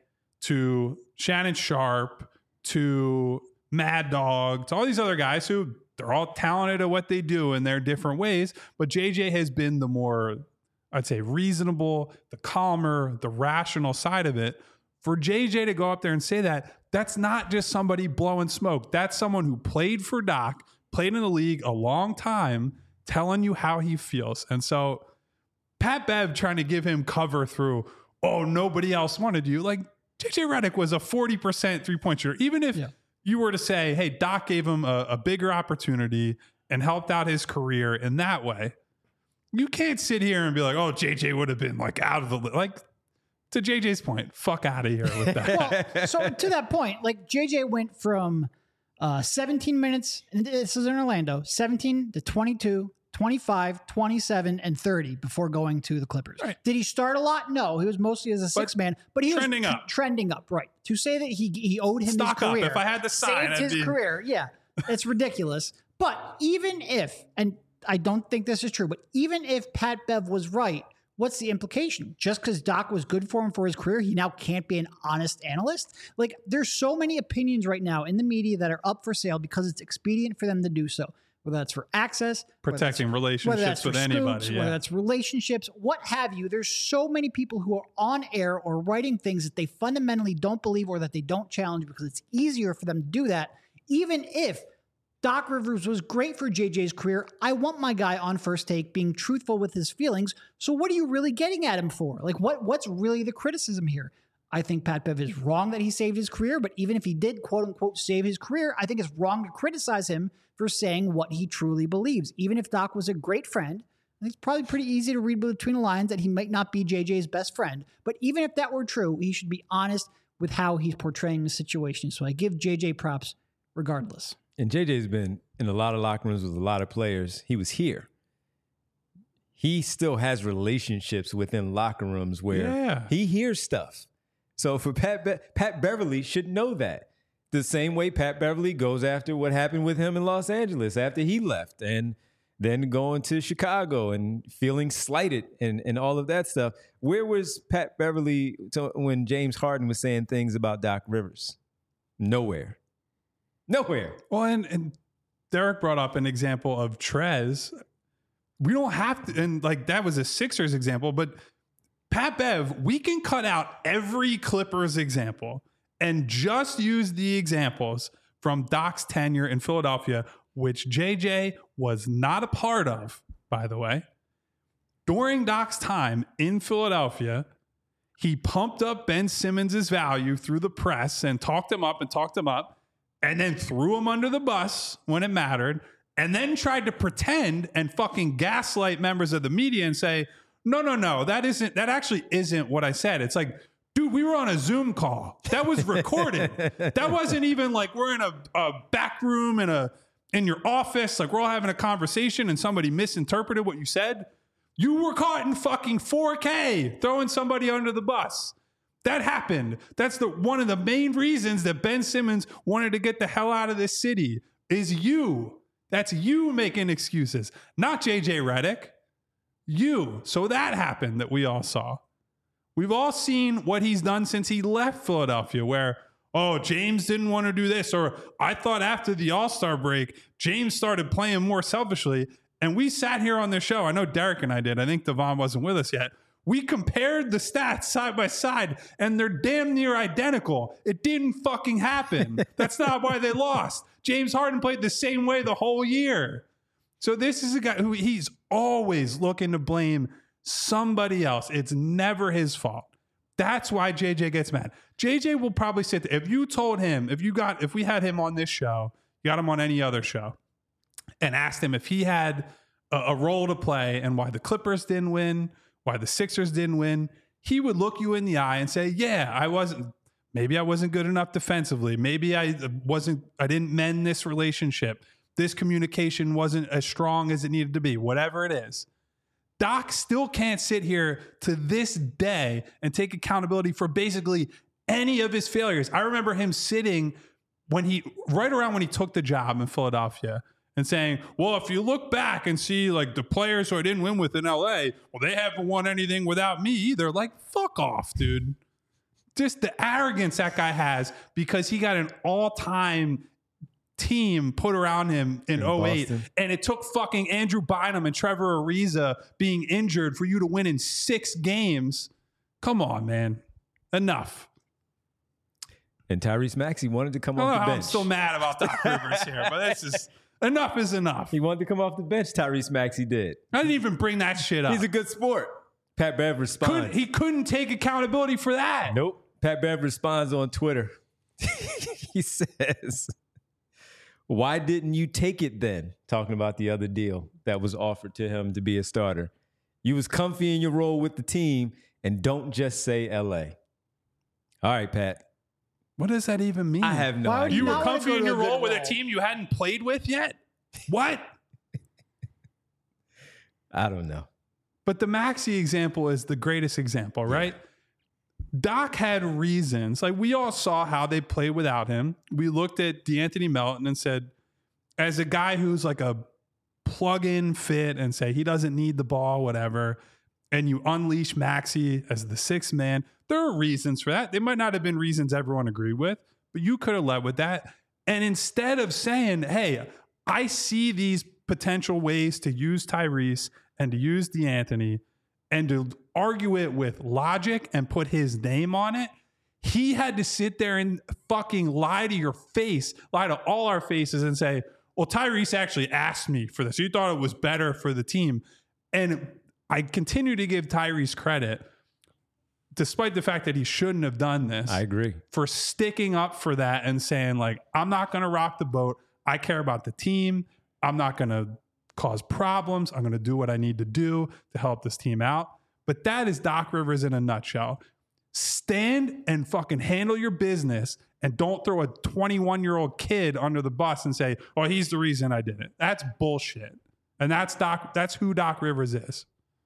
to Shannon Sharp, to Mad Dog, to all these other guys who they're all talented at what they do in their different ways. But J J has been the more, I'd say, reasonable, the calmer, the rational side of it. For J J to go up there and say that, that's not just somebody blowing smoke. That's someone who played for Doc, played in the league a long time, telling you how he feels. And so Pat Bev trying to give him cover through, oh, nobody else wanted you. Like, J J Redick was a forty percent three-point shooter. Even if yeah. you were to say, hey, Doc gave him a, a bigger opportunity and helped out his career in that way, you can't sit here and be like, oh, J J would have been like out of the, like, to J J's point, fuck out of here with that. Well, so to that point, like J J went from uh, seventeen minutes, and this is in Orlando, seventeen to twenty-two, twenty-five, twenty-seven, and thirty before going to the Clippers. Right. Did he start a lot? No, he was mostly as a six man, but he trending was up. trending up, right? To say that he he owed him Stock his career, up. If I had the sign, saved I'd his be... career. Yeah, it's ridiculous. But even if, and I don't think this is true, but even if Pat Bev was right, what's the implication? Just because Doc was good for him for his career, he now can't be an honest analyst? Like, there's so many opinions right now in the media that are up for sale because it's expedient for them to do so. whether that's for access, protecting whether that's, relationships whether that's with for anybody, scoops, yeah. whether that's relationships, what have you. There's so many people who are on air or writing things that they fundamentally don't believe or that they don't challenge because it's easier for them to do that. Even if Doc Rivers was great for J J's career, I want my guy on First Take being truthful with his feelings. So what are you really getting at him for? Like, what what's really the criticism here? I think Pat Bev is wrong that he saved his career, but even if he did, quote unquote, save his career, I think it's wrong to criticize him for saying what he truly believes. Even if Doc was a great friend, it's probably pretty easy to read between the lines that he might not be J J's best friend. But even if that were true, he should be honest with how he's portraying the situation. So I give J J props regardless. And J J's been in a lot of locker rooms with a lot of players. He was here. He still has relationships within locker rooms where Yeah. he hears stuff. So for Pat, Be- Pat Beverly should know that. The same way Pat Beverly goes after what happened with him in Los Angeles after he left and then going to Chicago and feeling slighted and, and all of that stuff. Where was Pat Beverly to, when James Harden was saying things about Doc Rivers? Nowhere. Nowhere. Well, and, and Derek brought up an example of Trez. We don't have to, and like that was a Sixers example, but Pat Bev, we can cut out every Clippers example and just use the examples from Doc's tenure in Philadelphia, which J J was not a part of, by the way. During Doc's time in Philadelphia, he pumped up Ben Simmons' value through the press and talked him up and talked him up, and then threw him under the bus when it mattered, and then tried to pretend and fucking gaslight members of the media and say, no, no, no, that isn't, that actually isn't what I said. It's like, dude, we were on a Zoom call. That was recorded. That wasn't even like we're in a, a back room in a in your office, like we're all having a conversation and somebody misinterpreted what you said. You were caught in fucking four K throwing somebody under the bus. That happened. That's the one of the main reasons that Ben Simmons wanted to get the hell out of this city is you. That's you making excuses, not J J Redick. You. So that happened that we all saw. We've all seen what he's done since he left Philadelphia, where, oh, James didn't want to do this, or I thought after the All-Star break, James started playing more selfishly. And we sat here on this show. I know Derek and I did. I think Devon wasn't with us yet. We compared the stats side by side, and they're damn near identical. It didn't fucking happen. That's not why they lost. James Harden played the same way the whole year. So this is a guy who he's always looking to blame somebody else. It's never his fault. That's why J J gets mad. J J will probably sit there. If you told him, if you got, if we had him on this show, you got him on any other show, and asked him if he had a, a role to play and why the Clippers didn't win, why the Sixers didn't win, he would look you in the eye and say, yeah, I wasn't, maybe I wasn't good enough defensively. Maybe I wasn't, I didn't mend this relationship. This communication wasn't as strong as it needed to be, whatever it is. Doc still can't sit here to this day and take accountability for basically any of his failures. I remember him sitting when he, right around when he took the job in Philadelphia and saying, well, if you look back and see like the players who I didn't win with in L A, well, they haven't won anything without me either. Like, fuck off, dude. Just the arrogance that guy has because he got an all-time team put around him in, in oh eight. Boston. And it took fucking Andrew Bynum and Trevor Ariza being injured for you to win in six games. Come on, man. Enough. And Tyrese Maxey wanted to come off the bench. I'm still mad about Doc Rivers here, but this is enough is enough. He wanted to come off the bench, Tyrese Maxey did. I didn't even bring that shit up. He's a good sport. Pat Bev responds. Couldn't, he couldn't take accountability for that. Nope. Pat Bev responds on Twitter. He says, why didn't you take it then? Talking about the other deal that was offered to him to be a starter. You was comfy in your role with the team, and don't just say L A. All right, Pat. What does that even mean? I have no Why would idea. You you were not comfy wanna in go your to a role good with a role? team you hadn't played with yet? What? I don't know. But the Maxey example is the greatest example, right? Yeah. Doc had reasons. Like, we all saw how they played without him. We looked at D'Anthony Melton and said, as a guy who's like a plug-in fit and say he doesn't need the ball, whatever, and you unleash Maxey as the sixth man, there are reasons for that. They might not have been reasons everyone agreed with, but you could have led with that. And instead of saying, hey, I see these potential ways to use Tyrese and to use DeAnthony and to argue it with logic and put his name on it, he had to sit there and fucking lie to your face, lie to all our faces and say, well, Tyrese actually asked me for this. He thought it was better for the team. And I continue to give Tyrese credit, despite the fact that he shouldn't have done this. I agree. For sticking up for that and saying, like, I'm not going to rock the boat. I care about the team. I'm not going to cause problems. I'm going to do what I need to do to help this team out. But that is Doc Rivers in a nutshell. Stand and fucking handle your business and don't throw a twenty-one-year-old kid under the bus and say, oh, he's the reason I did it. That's bullshit. And that's Doc. That's who Doc Rivers is.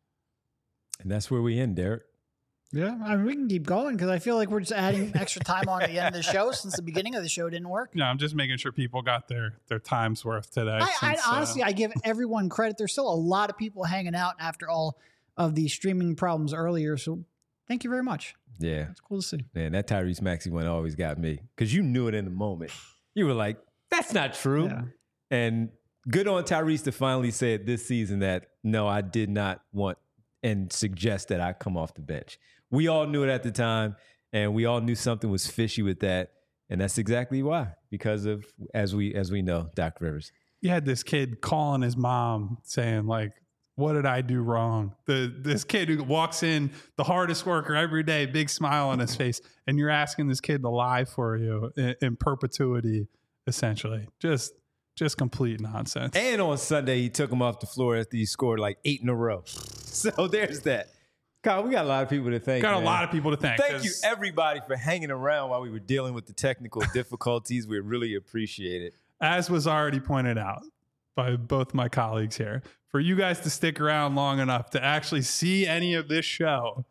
And that's where we end, Derek. Yeah, I mean, we can keep going because I feel like we're just adding extra time on at the end of the show since the beginning of the show didn't work. No, I'm just making sure people got their their time's worth today. I, since, I honestly, uh, I give everyone credit. There's still a lot of people hanging out after all of the streaming problems earlier. So thank you very much. Yeah. It's cool to see. Man, that Tyrese Maxey one always got me because you knew it in the moment. You were like, that's not true. Yeah. And good on Tyrese to finally say it this season that, no, I did not want and suggest that I come off the bench. We all knew it at the time, and we all knew something was fishy with that. And that's exactly why, because of, as we as we know, Doc Rivers. You had this kid calling his mom saying, like, what did I do wrong? The This kid who walks in, the hardest worker every day, big smile on his face, and you're asking this kid to lie for you in, in perpetuity, essentially. Just just complete nonsense. And on Sunday, he took him off the floor after he scored like eight in a row. So there's that. Kyle, we got a lot of people to thank. Got man. a lot of people to thank. Thank you, everybody, for hanging around while we were dealing with the technical difficulties. We really appreciate it. As was already pointed out by both my colleagues here, for you guys to stick around long enough to actually see any of this show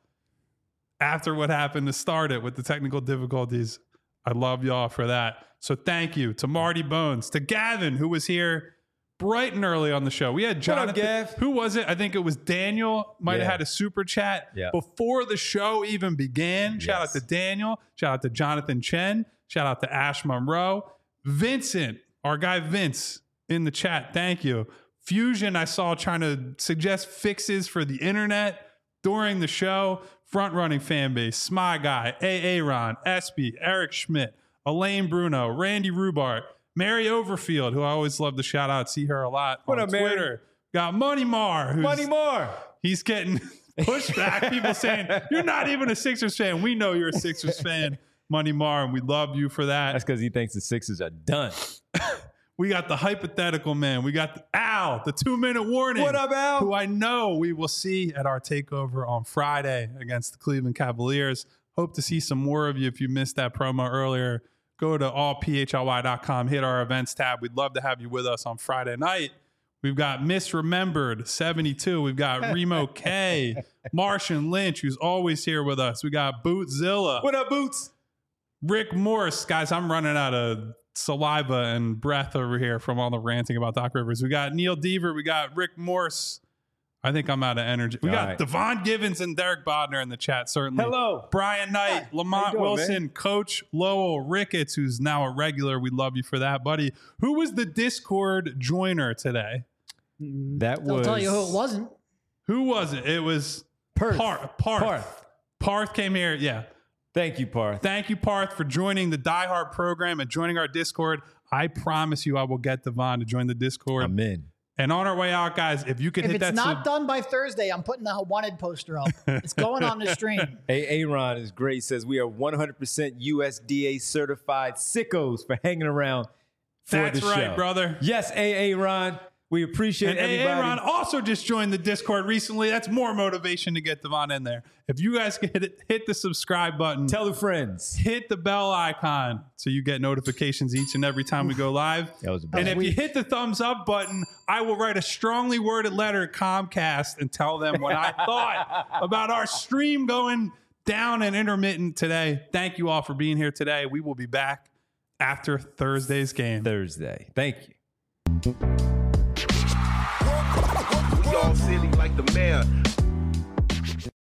after what happened to start it with the technical difficulties, I love y'all for that. So thank you to Marty Bones, to Gavin, who was here bright and early on the show. We had Jonathan. What up, Gav? Who was it? I think it was Daniel. Might Yeah. have had a super chat Yeah. before the show even began. Shout Yes. out to Daniel. Shout out to Jonathan Chen. Shout out to Ash Monroe. Vincent, our guy Vince in the chat. Thank you. Fusion, I saw trying to suggest fixes for the internet during the show. Front running fan base. Smy Guy, A. Aaron, S B, Eric Schmidt, Elaine Bruno, Randy Rubart, Mary Overfield, who I always love to shout out. See her a lot What on up, Mary? Twitter. Got Money Mar. Who's, Money more. He's getting pushback. People saying, you're not even a Sixers fan. We know you're a Sixers fan, Money Mar, and we love you for that. That's because he thinks the Sixers are done. We got the hypothetical man. We got the Al, the two-minute warning. What up, Al? Who I know we will see at our takeover on Friday against the Cleveland Cavaliers. Hope to see some more of you. If you missed that promo earlier, go to all p h l y dot com, hit our events tab. We'd love to have you with us on Friday night. We've got Misremembered seventy-two. We've got Remo K, Martian Lynch, who's always here with us. We got Bootzilla. What up, Boots? Rick Morris. Guys, I'm running out of saliva and breath over here from all the ranting about Doc Rivers. We got Neil Deaver. We got Rick Morse. I think I'm out of energy. We All got right. Devon Givens and Derek Bodner in the chat, certainly. Hello. Brian Knight, Hi. How Lamont you doing, Wilson, man? Coach Lowell Ricketts, who's now a regular. We love you for that, buddy. Who was the Discord joiner today? That I'll was. tell you who it wasn't. Who was it? It was Perth. Parth. Parth. Parth. Parth came here. Yeah. Thank you, Parth. Thank you, Parth, for joining the Die Hard program and joining our Discord. I promise you I will get Devon to join the Discord. I'm in. And on our way out, guys, if you could If hit it's that not sub- done by Thursday, I'm putting the wanted poster up. It's going on the stream. Hey, Aaron is great. He says we are one hundred percent U S D A certified sickos for hanging around for That's the right, show. brother. Yes, Aaron. We appreciate And everybody. Aaron also just joined the Discord recently. That's more motivation to get Devon in there. If you guys could hit, hit the subscribe button, Tell the friends. hit the bell icon so you get notifications each and every time we go live. That was a And bad if you hit the thumbs up button, I will write a strongly worded letter to Comcast and tell them what I thought about our stream going down and intermittent today. Thank you all for being here today. We will be back after Thursday's game. Thursday. Thank you. We all silly like the mayor.